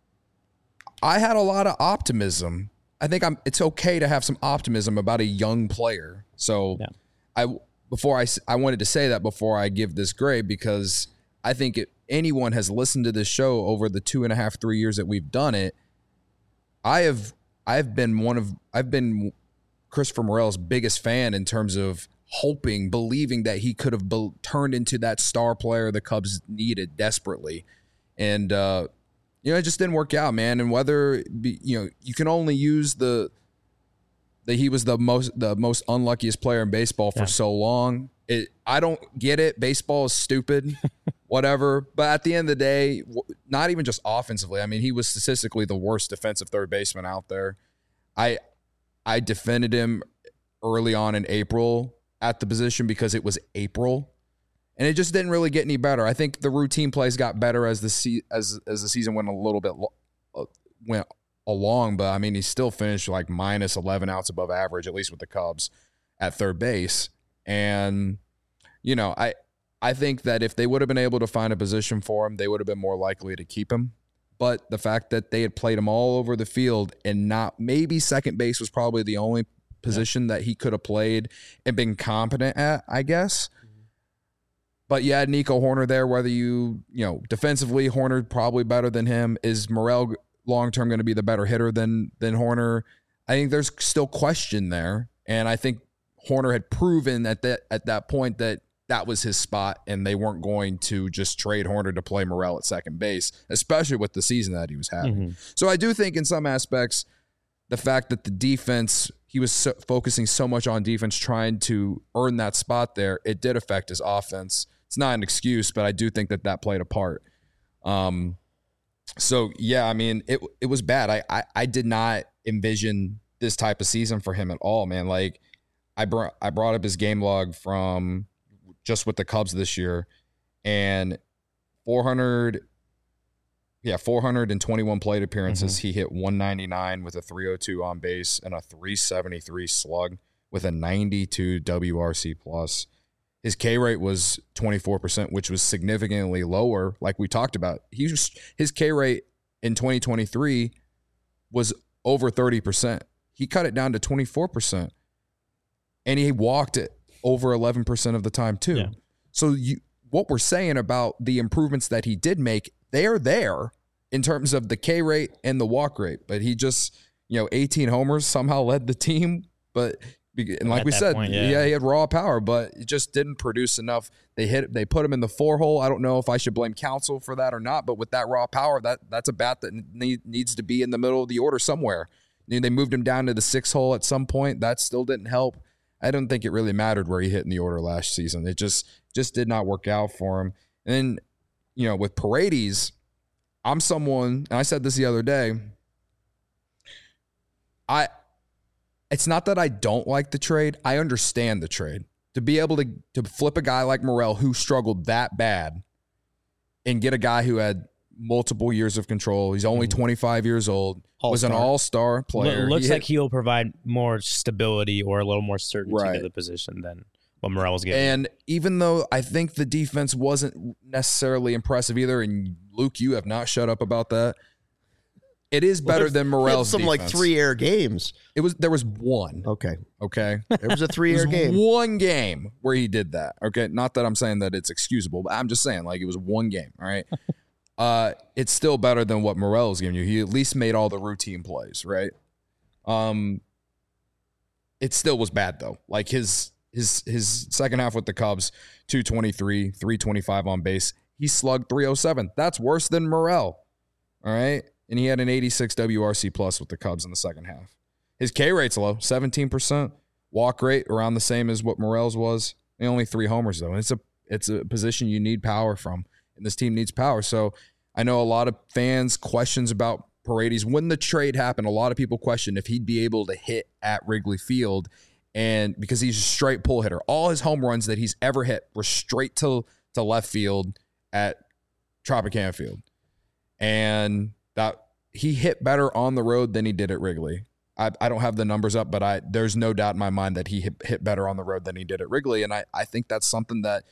I had a lot of optimism. I think I'm. It's okay to have some optimism about a young player. So, Yeah. I before I s- I wanted to say that before I give this grade because I think if anyone has listened to this show over the two and a half three years that we've done it, I have I've been one of I've been Christopher Morel's biggest fan in terms of hoping, believing that he could have be- turned into that star player the Cubs needed desperately. And, uh, you know, it just didn't work out, man. And whether, it be, you know, you can only use the, that he was the most, the most unluckiest player in baseball for Yeah. so long. It, I don't get it. Baseball is stupid, whatever. But at the end of the day, w- not even just offensively. I mean, he was statistically the worst defensive third baseman out there. I, I defended him early on in April at the position because it was April, and it just didn't really get any better. I think the routine plays got better as the se- as as the season went a little bit lo- uh, went along, but I mean he still finished like minus eleven outs above average, at least with the Cubs at third base. And you know, I I think that if they would have been able to find a position for him, they would have been more likely to keep him. But the fact that they had played him all over the field and not maybe second base was probably the only position that he could have played and been competent at, I guess. But you had Nico Horner there, whether you, you know, defensively, Horner probably better than him. Is Morel long-term going to be the better hitter than than Horner? I think there's still question there. And I think Horner had proven at that at that point that that was his spot and they weren't going to just trade Horner to play Morel at second base, especially with the season that he was having. Mm-hmm. So I do think in some aspects, the fact that the defense, he was so, focusing so much on defense, trying to earn that spot there, it did affect his offense. It's not an excuse, but I do think that that played a part. Um, so yeah, I mean, it it was bad. I, I I did not envision this type of season for him at all, man. Like I brought I brought up his game log from just with the Cubs this year, and four hundred. Yeah, four hundred twenty-one plate appearances. Mm-hmm. He hit one ninety-nine with a three oh two on base and a three seventy-three slug with a ninety-two W R C plus. His K rate was twenty-four percent, which was significantly lower. Like we talked about, he was, his K rate in twenty twenty-three was over thirty percent. He cut it down to twenty-four percent, and he walked it over eleven percent of the time too. Yeah. So you, what we're saying about the improvements that he did make, they're there in terms of the K rate and the walk rate. But he just, you know, eighteen homers somehow led the team. But and like At we that said, point, yeah. yeah, he had raw power, but it just didn't produce enough. They hit, they put him in the four hole. I don't know if I should blame Counsell for that or not. But with that raw power, that that's a bat that need, needs to be in the middle of the order somewhere. You know, they moved him down to the six hole at some point. That still didn't help. I don't think it really mattered where he hit in the order last season. It just just did not work out for him. And then, you know, with Paredes, I'm someone, and I said this the other day. I, it's not that I don't like the trade. I understand the trade. To be able to to flip a guy like Morel who struggled that bad and get a guy who had multiple years of control. He's only twenty-five years old. All-star. Was an all-star player. Lo- looks He like hit- he'll provide more stability or a little more certainty Right. to the position than what Morel was getting. And even though I think the defense wasn't necessarily impressive either, and Luke, you have not shut up about that. It is better There's- than we had Morel's some like defense. three air games. It was there was one. Okay, Okay. there was a three It air was game. one game where he did that. Okay. Not that I'm saying that it's excusable, but I'm just saying like it was one game. All right. uh, it's still better than what Morel is giving you. He at least made all the routine plays, right? Um, it still was bad though. Like his his his second half with the Cubs, two twenty-three, three twenty-five on base. He slugged three oh seven. That's worse than Morel. All right. And he had an eighty-six W R C plus with the Cubs in the second half. His K rate's low, seventeen percent. Walk rate around the same as what Morel's was. And only three homers though. And it's a it's a position you need power from, and this team needs power. So I know a lot of fans questions about Paredes. When the trade happened, a lot of people questioned if he'd be able to hit at Wrigley Field, and because he's a straight pull hitter. All his home runs that he's ever hit were straight to to left field at Tropicana Field, and that he hit better on the road than he did at Wrigley. I, I don't have the numbers up, but I there's no doubt in my mind that he hit, hit better on the road than he did at Wrigley. And I, I think that's something that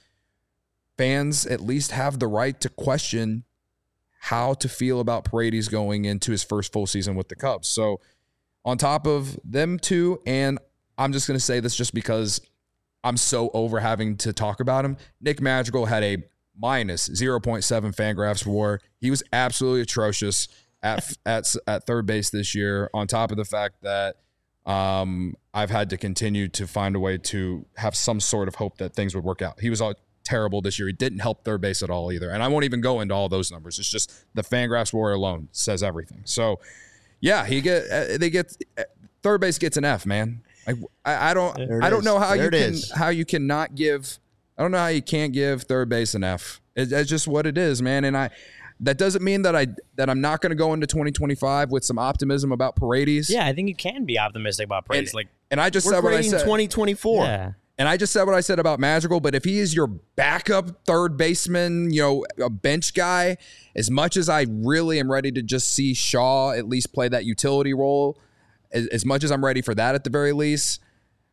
fans at least have the right to question how to feel about Paredes going into his first full season with the Cubs. So on top of them two, and I'm just going to say this just because I'm so over having to talk about him, Nick Madrigal had a minus zero point seven Fangraphs WAR. He was absolutely atrocious at at at third base this year, on top of the fact that um, I've had to continue to find a way to have some sort of hope that things would work out. He was all terrible this year. He didn't help third base at all either. And I won't even go into all those numbers. It's just the Fangraphs WAR alone says everything. So, yeah, he get uh, they get uh, third base gets an F, man. Like, I, I don't There it I don't is. know how There you it can is. how you cannot give I don't know how you can't give third base an F. It, it's just what it is, man. And I that doesn't mean that I that I'm not going to go into twenty twenty-five with some optimism about Paredes. yeah, I think you can be optimistic about Paredes. And, Like, and I just We're said what I grading said. twenty twenty-four. yeah. And I just said what I said about Madrigal, but if he is your backup third baseman, you know, a bench guy, as much as I really am ready to just see Shaw at least play that utility role, as, as much as I'm ready for that at the very least,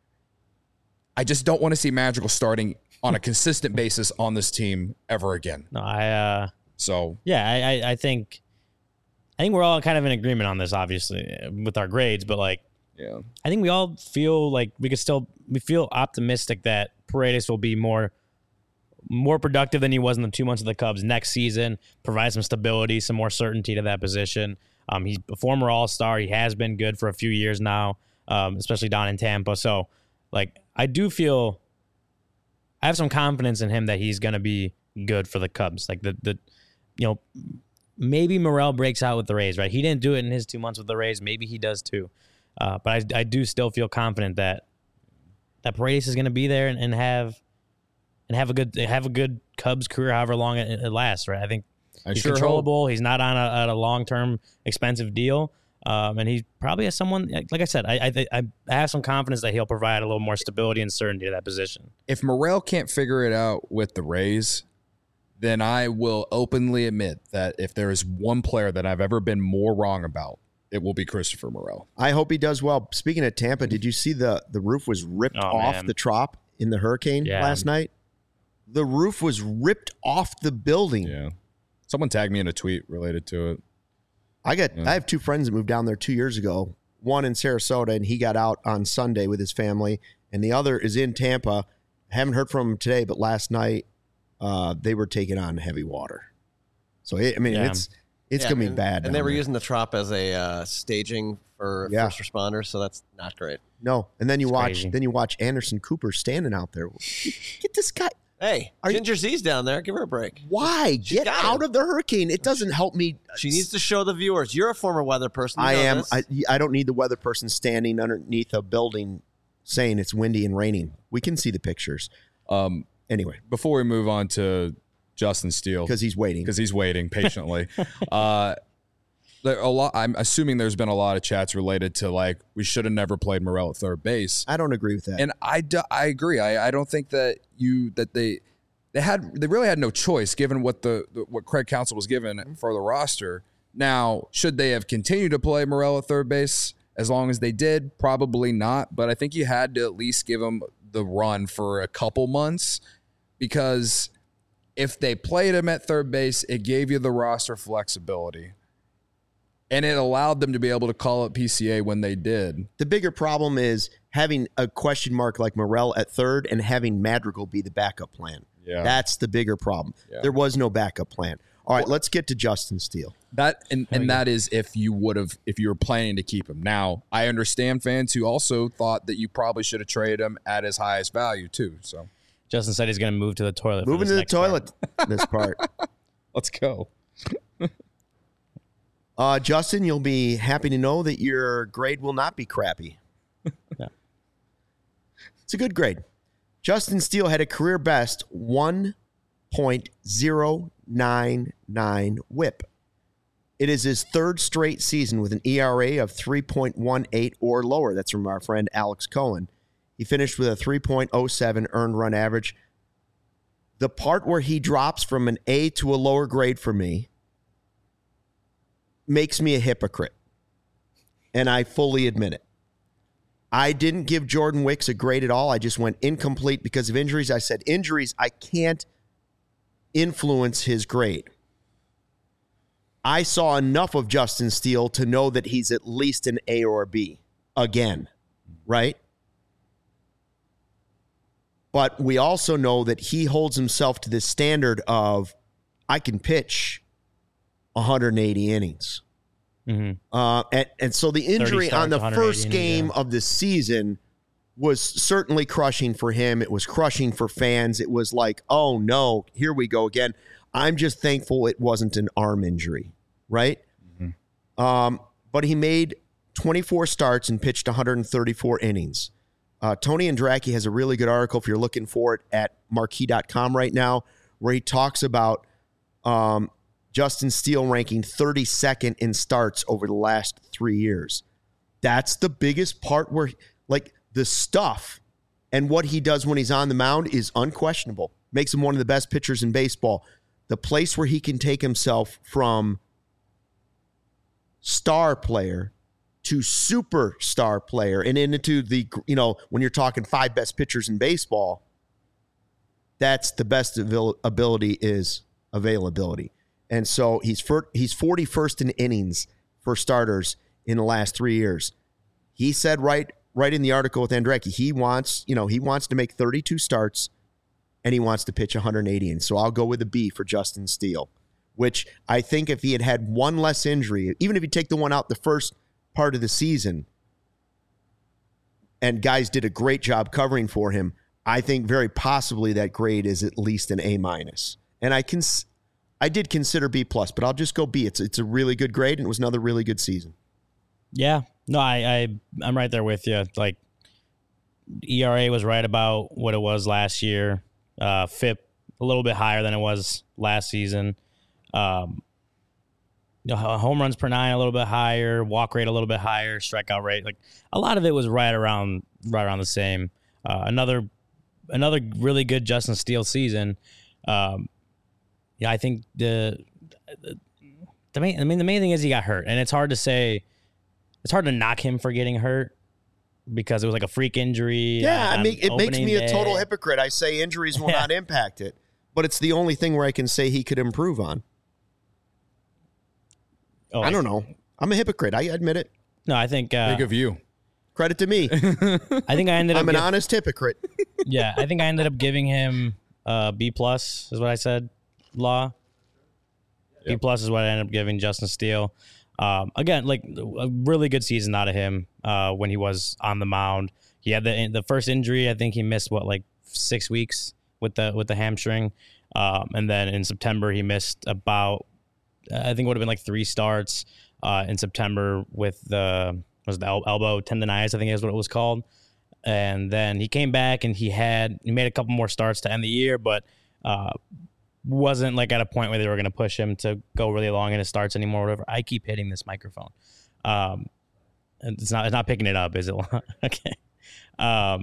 I just don't want to see Madrigal starting on a consistent basis on this team ever again. No, I uh So, yeah, I, I I think I think we're all kind of in agreement on this, obviously, with our grades, but like yeah. I think we all feel like we could still we feel optimistic that Paredes will be more more productive than he was in the two months of the Cubs next season, provide some stability, some more certainty to that position. Um, he's a former All-Star. He has been good for a few years now, um, especially down in Tampa. So, like, I do feel I have some confidence in him that he's going to be good for the Cubs. Like, the, the you know, maybe Morel breaks out with the Rays, right? He didn't do it in his two months with the Rays. Maybe he does too. Uh, but I, I do still feel confident that that Paredes is going to be there and, and have and have a good have a good Cubs career, however long it, it lasts. Right? I think I he's sure controllable. He's not on a, a long term expensive deal, um, and he probably has someone. Like I said, I, I I have some confidence that he'll provide a little more stability and certainty to that position. If Morel can't figure it out with the Rays, then I will openly admit that if there is one player that I've ever been more wrong about, it will be Christopher Morel. I hope he does well. Speaking of Tampa, did you see the the roof was ripped Oh, off man. the Trop in the hurricane Yeah. last night? The roof was ripped off the building. Yeah. Someone tagged me in a tweet related to it. I got Yeah. I have two friends that moved down there two years ago. One in Sarasota, and he got out on Sunday with his family, and the other is in Tampa. Haven't heard from him today, but last night uh, they were taking on heavy water. So it, I mean, Yeah. it's it's Yeah, gonna be and, bad. And they down were there. using the Trop as a uh, staging for Yeah. first responders, so that's not great. no, and then you It's watch crazy. then you watch Anderson Cooper standing out there. Get this guy. Hey, Are you- Ginger Z's down there. Give her a break. Why She's get got out it. of the hurricane? It doesn't help me. She needs to show the viewers. You're a former weather person. You I know am. this. I, I don't need the weather person standing underneath a building saying it's windy and raining. We can see the pictures. Um, Anyway, before we move on to Justin Steele. Because he's waiting. Because he's waiting patiently. uh, there a lot. I'm assuming there's been a lot of chats related to like we should have never played Morel at third base. I don't agree with that. And I, do, I agree. I, I don't think that you that they they had they really had no choice given what the, the what Craig Counsell was given for the roster. Now, should they have continued to play Morel at third base as long as they did? Probably not. But I think you had to at least give him the run for a couple months, because if they played him at third base, it gave you the roster flexibility. And it allowed them to be able to call up P C A when they did. The bigger problem is having a question mark like Morel at third and having Madrigal be the backup plan. Yeah. That's the bigger problem. Yeah. There was no backup plan. All right, let's get to Justin Steele. That and, and that is if you would have if you were planning to keep him. Now, I understand fans who also thought that you probably should have traded him at his highest value too. So Justin said he's going to move to the toilet. for Moving this to the next part. toilet, this part. let's go. Uh, Justin, you'll be happy to know that your grade will not be crappy. Yeah. It's a good grade. Justin Steele had a career best one point oh nine nine whip. It is his third straight season with an E R A of three point one eight or lower. That's from our friend Alex Cohen. He finished with a three point oh seven earned run average. The part where he drops from an A to a lower grade for me makes me a hypocrite, and I fully admit it. I didn't give Jordan Wicks a grade at all. I just went incomplete because of injuries. I said injuries, I can't influence his grade. I saw enough of Justin Steele to know that he's at least an A or a B again, right? But we also know that he holds himself to this standard of I can pitch one hundred eighty innings. Mm-hmm. Uh, and, and so the injury on the first innings, game yeah. of the season was certainly crushing for him. It was crushing for fans. It was like, oh, no, here we go again. I'm just thankful it wasn't an arm injury, right? Mm-hmm. Um, but he made twenty-four starts and pitched one hundred thirty-four innings. Uh, Tony Andracki has a really good article, if you're looking for it, at marquee dot com right now, where he talks about um, Justin Steele ranking thirty-second in starts over the last three years. That's the biggest part where, like, the stuff and what he does when he's on the mound is unquestionable. Makes him one of the best pitchers in baseball. The place where he can take himself from star player to superstar player and into the, you know, when you're talking five best pitchers in baseball, that's the best avail- ability is availability. And so he's for, he's forty-first in innings for starters in the last three years. He said right right in the article with Andracki, he wants, you know, he wants to make thirty-two starts and he wants to pitch one hundred eighty. And so I'll go with a B for Justin Steele, which I think if he had had one less injury, even if you take the one out the first part of the season and guys did a great job covering for him, I think very possibly that grade is at least an A minus. And I can, I did consider B plus, but I'll just go B. It's it's a really good grade and it was another really good season. Yeah, no, I, I I'm right there with you. Like E R A was right about what it was last year. Uh, F I P a little bit higher than it was last season. Um, you know, home runs per nine a little bit higher, walk rate a little bit higher, strikeout rate, like a lot of it was right around right around the same. Uh, another another really good Justin Steele season. Um, yeah, I think the, the the main I mean the main thing is he got hurt, and it's hard to say. It's hard to knock him for getting hurt because it was like a freak injury. Yeah, I mean, it makes me day. a total hypocrite. I say injuries will Yeah. not impact it, but it's the only thing where I can say he could improve on. Oh, I don't know. I'm a hypocrite. I admit it. No, I think uh, Big of you. Credit to me. I think I ended up. I'm an giv- honest hypocrite. yeah, I think I ended up giving him uh, B plus is what I said. Law. B plus is what I ended up giving Justin Steele. Um, again, like a really good season out of him uh, when he was on the mound. He had the the first injury. I think he missed what like six weeks with the with the hamstring, um, and then in September he missed about I think it would have been like three starts uh, in September with the was it the el- elbow tendonitis. I think is what it was called. And then he came back and he had he made a couple more starts to end the year, but uh, wasn't like at a point where they were going to push him to go really long in his starts anymore, or whatever. I keep hitting this microphone. Um, it's not, it's not picking it up, is it? Okay. Um,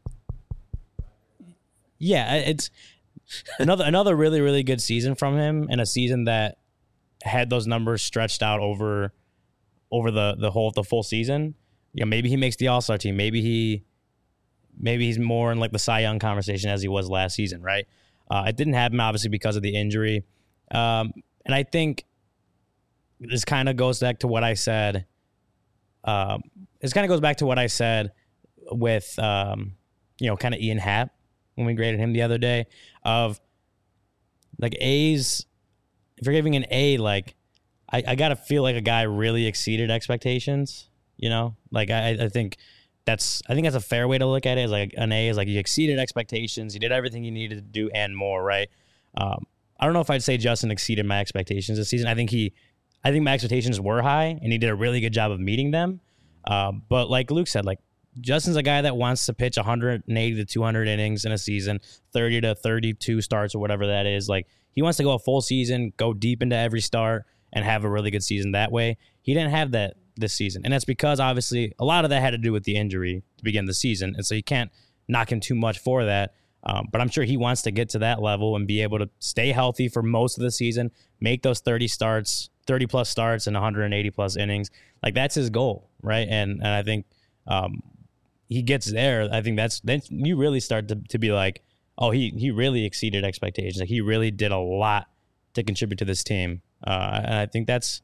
yeah, it's another, another really, really good season from him, and a season that had those numbers stretched out over, over the, the whole, the full season. You know, maybe he makes the All-Star team. Maybe he, maybe he's more in like the Cy Young conversation as he was last season, right? Uh, it didn't happen, obviously, because of the injury. Um, and I think this kind of goes back to what I said. Um, this kind of goes back to what I said with, um, you know, kind of Ian Happ when we graded him the other day of like A's. If you're giving an A, like I, I got to feel like a guy really exceeded expectations, you know, like I, I think that's, I think that's a fair way to look at it. Is like an A is like you exceeded expectations. You did everything you needed to do and more. Right. Um, I don't know if I'd say Justin exceeded my expectations this season. I think he, I think my expectations were high and he did a really good job of meeting them. Um, but like Luke said, like Justin's a guy that wants to pitch one hundred eighty to two hundred innings in a season, thirty to thirty-two starts or whatever that is. Like he wants to go a full season, go deep into every start and have a really good season that way. He didn't have that this season. And that's because obviously a lot of that had to do with the injury to begin the season. And so you can't knock him too much for that. Um, but I'm sure he wants to get to that level and be able to stay healthy for most of the season, make those thirty starts, thirty plus starts and one hundred eighty plus innings. Like that's his goal, right? And and I think um, he gets there. I think that's then you really start to, to be like, oh, he he really exceeded expectations. Like he really did a lot to contribute to this team. Uh, and I think that's,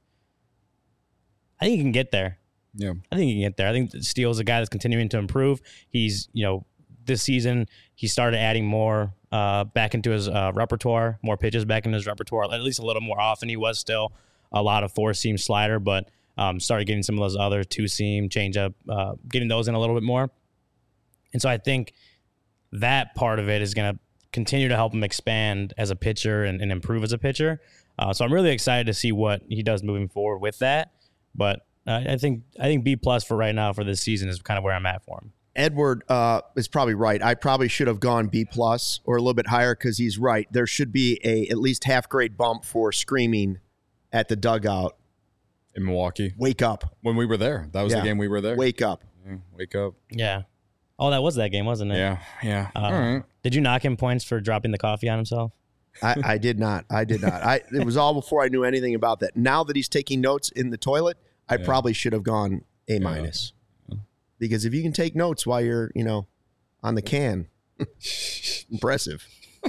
I think he can get there. Yeah, I think he can get there. I think Steele's a guy that's continuing to improve. He's, you know, this season he started adding more uh, back into his uh, repertoire, more pitches back into his repertoire, at least a little more often. He was still a lot of four-seam slider, but um, started getting some of those other two-seam, changeup, uh, getting those in a little bit more. And so I think that part of it is going to continue to help him expand as a pitcher and, and improve as a pitcher. Uh, so I'm really excited to see what he does moving forward with that. But uh, I think I think B plus for right now for this season is kind of where I'm at for him. Edward uh, is probably right. I probably should have gone B plus or a little bit higher because he's right. There should be a at least half grade bump for screaming at the dugout. In Milwaukee. Wake up. When we were there. That was Yeah. the game we were there. Wake up. Yeah, wake up. Yeah. Oh, that was that game, wasn't it? Yeah, yeah. Uh, All right. Did you knock him points for dropping the coffee on himself? I, I did not. I did not. I it was all before I knew anything about that. Now that he's taking notes in the toilet, I Yeah. probably should have gone A minus. Because if you can take notes while you're, you know, on the can, impressive.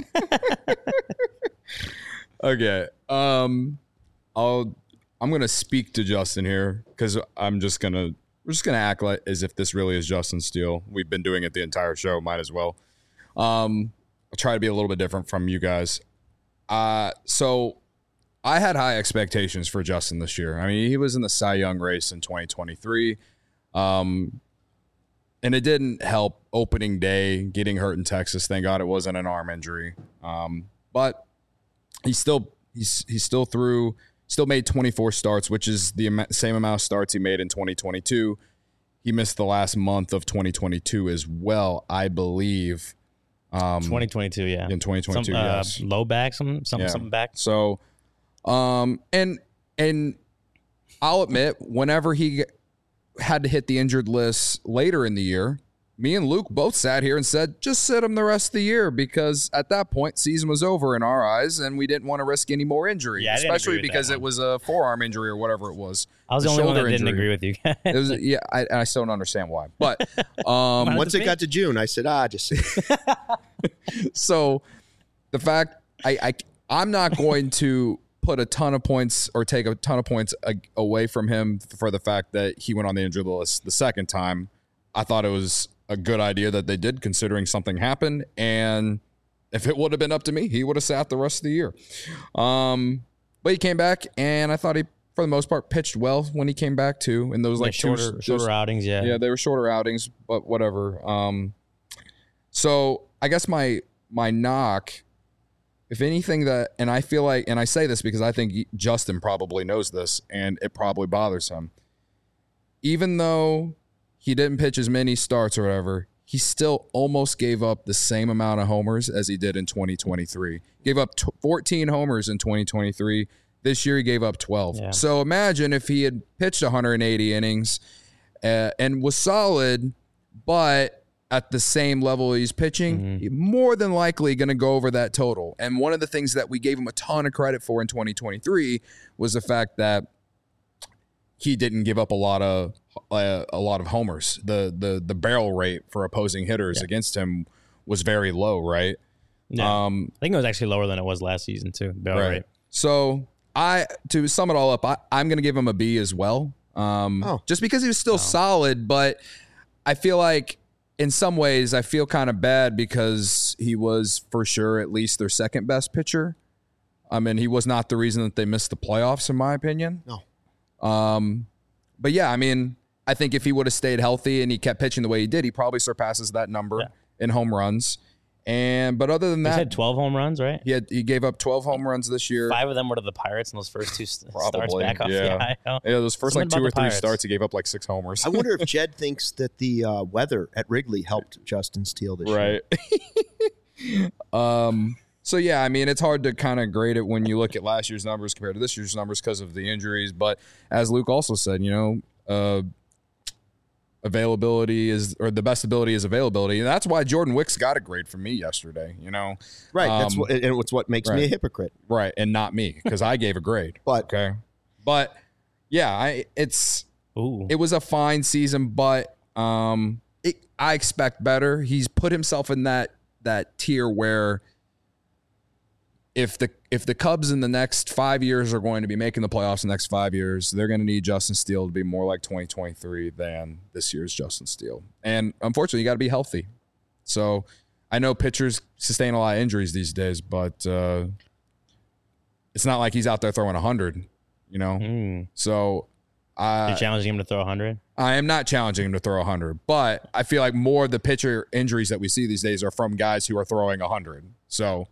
Okay. Um, I'll. I'm gonna speak to Justin here because I'm just gonna. We're just gonna act like as if this really is Justin Steele. We've been doing it the entire show. Might as well. Um, I'll try to be a little bit different from you guys. Uh, so I had high expectations for Justin this year. I mean, he was in the Cy Young race in twenty twenty-three. Um, and it didn't help opening day, getting hurt in Texas. Thank God it wasn't an arm injury. Um, but he still he's he still threw still made twenty-four starts, which is the am- same amount of starts he made in twenty twenty-two. He missed the last month of twenty twenty-two as well, I believe. Um, twenty twenty-two, yeah. in twenty twenty-two, some, uh, yes. Low back, some, some, Yeah. something back. So, um, and and I'll admit, whenever he had to hit the injured list later in the year, me and Luke both sat here and said, just sit him the rest of the year, because at that point, season was over in our eyes, and we didn't want to risk any more injury, Yeah, I didn't especially agree with because that it one. was a forearm injury or whatever it was. I was The the only one that shoulder didn't injury. agree with you guys. It was, yeah, I, I still don't understand why, but um, Once it got to June, I said, ah, just so the fact I, I I'm not going to put a ton of points or take a ton of points a, away from him for the fact that he went on the injured list the second time. I thought it was a good idea that they did, considering something happened, and if it would have been up to me, he would have sat the rest of the year. Um, but he came back, and I thought he, for the most part, pitched well when he came back too. In those Yeah, like shorter, two, shorter those- outings, yeah. yeah, they were shorter outings, but whatever. Um, so I guess my my knock, if anything, that, and I feel like, and I say this because I think Justin probably knows this, and it probably bothers him. Even though he didn't pitch as many starts or whatever, he still almost gave up the same amount of homers as he did in twenty twenty-three. Gave up t- fourteen homers in twenty twenty-three. This year he gave up twelve. Yeah. So imagine if he had pitched one hundred eighty innings uh, and was solid, but at the same level he's pitching, Mm-hmm. he's more than likely going to go over that total. And one of the things that we gave him a ton of credit for in twenty twenty-three was the fact that he didn't give up a lot of uh, a lot of homers. The the the barrel rate for opposing hitters Yeah. against him was very low, right? Yeah. Um, I think it was actually lower than it was last season too. Barrel right. rate. So I to sum it all up, I, I'm going to give him a B as well. Um, Oh. just because he was still solid, but I feel like in some ways I feel kind of bad because he was for sure at least their second best pitcher. I mean, he was not the reason that they missed the playoffs, in my opinion. No. Um, but yeah, I mean, I think if he would have stayed healthy and he kept pitching the way he did, he probably surpasses that number Yeah. in home runs. And but other than He that, had twelve home runs, right? he had he gave up twelve home runs this year. Five of them were to the Pirates in those first two st- starts Probably, back off yeah. the I L. Yeah, those first Something like two about or the three Pirates. starts, he gave up like six homers. I wonder if Jed thinks that the uh, weather at Wrigley helped Justin Steele this year. Right. um. So yeah, I mean, it's hard to kind of grade it when you look at last year's numbers compared to this year's numbers because of the injuries. But as Luke also said, you know, uh, availability is or the best ability is availability, and that's why Jordan Wicks got a grade from me yesterday. You know, Right. That's Um, what, and it's what makes me right. a hypocrite. right, and not me because I gave a grade. But Okay, but yeah, I it's. Ooh. It was a fine season, but um, it, I expect better. He's put himself in that that tier where if the if the Cubs in the next five years are going to be making the playoffs in the next five years, they're going to need Justin Steele to be more like twenty twenty-three than this year's Justin Steele. And unfortunately, you got to be healthy. So I know pitchers sustain a lot of injuries these days, but uh, it's not like he's out there throwing one hundred, you know? Mm. So I. You're challenging him to throw one hundred? I am not challenging him to throw one hundred, but I feel like more of the pitcher injuries that we see these days are from guys who are throwing one hundred. So,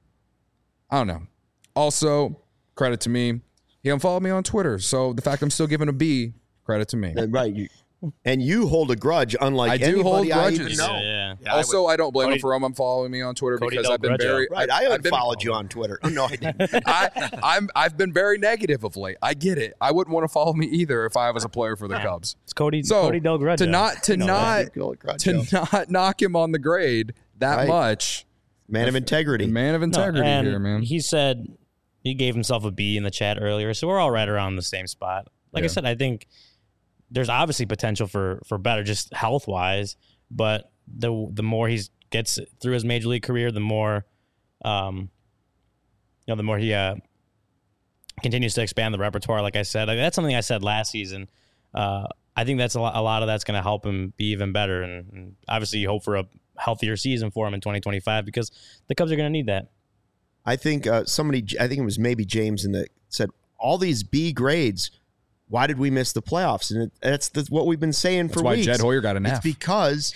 I don't know. Also, credit to me. He unfollowed me on Twitter. So, the fact I'm still giving a B, credit to me. uh, right, you, and you hold a grudge, unlike I do anybody hold I grudges. even know. Yeah, yeah. Yeah, I Also, I, don't blame Cody- him for him unfollowing me on Twitter Cody because don't I've been grudge very him. Right, I've, I I've been, unfollowed you on Twitter. Oh, no, I didn't. I, I'm I've been very negative of late. I get it. I wouldn't want to follow me either if I was a player for the Cubs. It's Cody, So Cody Del Grudge. to not to You know not that. Good old grudge, to Joe. not knock him on the grade that Right. much. Man of integrity. Man of No, integrity and here, man. He said he gave himself a B in the chat earlier, so we're all right around the same spot. Like I Yeah. said, I think there's obviously potential for for better, just health wise. But the the more he gets through his major league career, the more, um, you know, the more he uh, continues to expand the repertoire. Like I said, like, that's something I said last season. Uh, I think that's a lot, a lot of that's going to help him be even better, and, and obviously you hope for a healthier season for him in twenty twenty-five because the Cubs are going to need that. I think uh, somebody, I think it was maybe James, in the said all these B grades. Why did we miss the playoffs? And it, that's the, what we've been saying That's for why weeks. Jed Hoyer got an It's F. because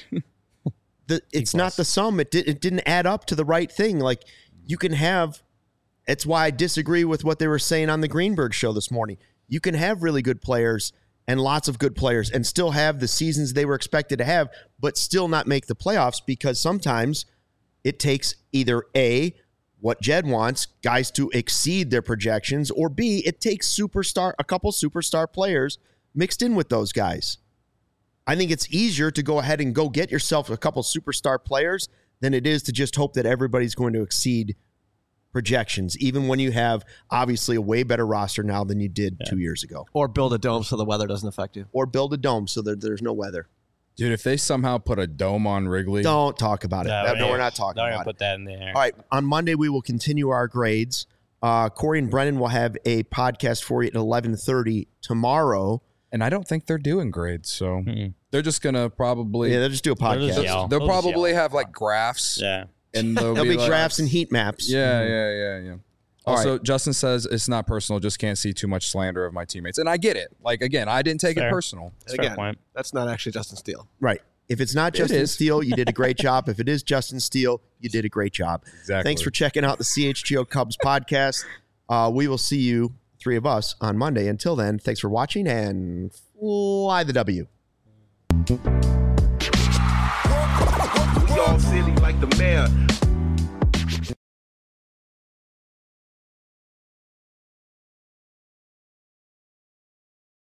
the it's not the sum. It did, it didn't add up to the right thing. Like you can have. It's why I disagree with what they were saying on the Greenberg show this morning. You can have really good players and lots of good players and still have the seasons they were expected to have, but still not make the playoffs because sometimes it takes either A, what Jed wants, guys to exceed their projections, or B, it takes superstar a couple superstar players mixed in with those guys. I think it's easier to go ahead and go get yourself a couple superstar players than it is to just hope that everybody's going to exceed projections, even when you have obviously a way better roster now than you did Yeah. two years ago. Or build a dome so the weather doesn't affect you. Or build a dome so that there's no weather. Dude, if they somehow put a dome on Wrigley, Don't talk about it. No, no, we're not talking Don't about even it. put that in there. All right. On Monday, we will continue our grades. Uh, Corey and Brennan will have a podcast for you at eleven thirty tomorrow. and I don't think they're doing grades, so Mm-mm. they're just gonna probably Yeah, they'll just do a They'll just podcast. yell. they'll They'll just probably yell. have like graphs, Yeah. and they'll There'll be, be like, graphs and heat maps. Yeah, yeah, yeah, yeah. All Also, right. Justin says it's not personal. Just can't see too much slander of my teammates, and I get it. Like again, I didn't take Fair. it personal. That's a fair Again, point. that's not actually Justin Steele. Right. If it's not It Justin is. Steele, you did a great job. If it is Justin Steele, you did a great job. Exactly. Thanks for checking out the C H G O Cubs podcast. Uh, we will see you, three of us, on Monday. Until then, thanks for watching and fly the W.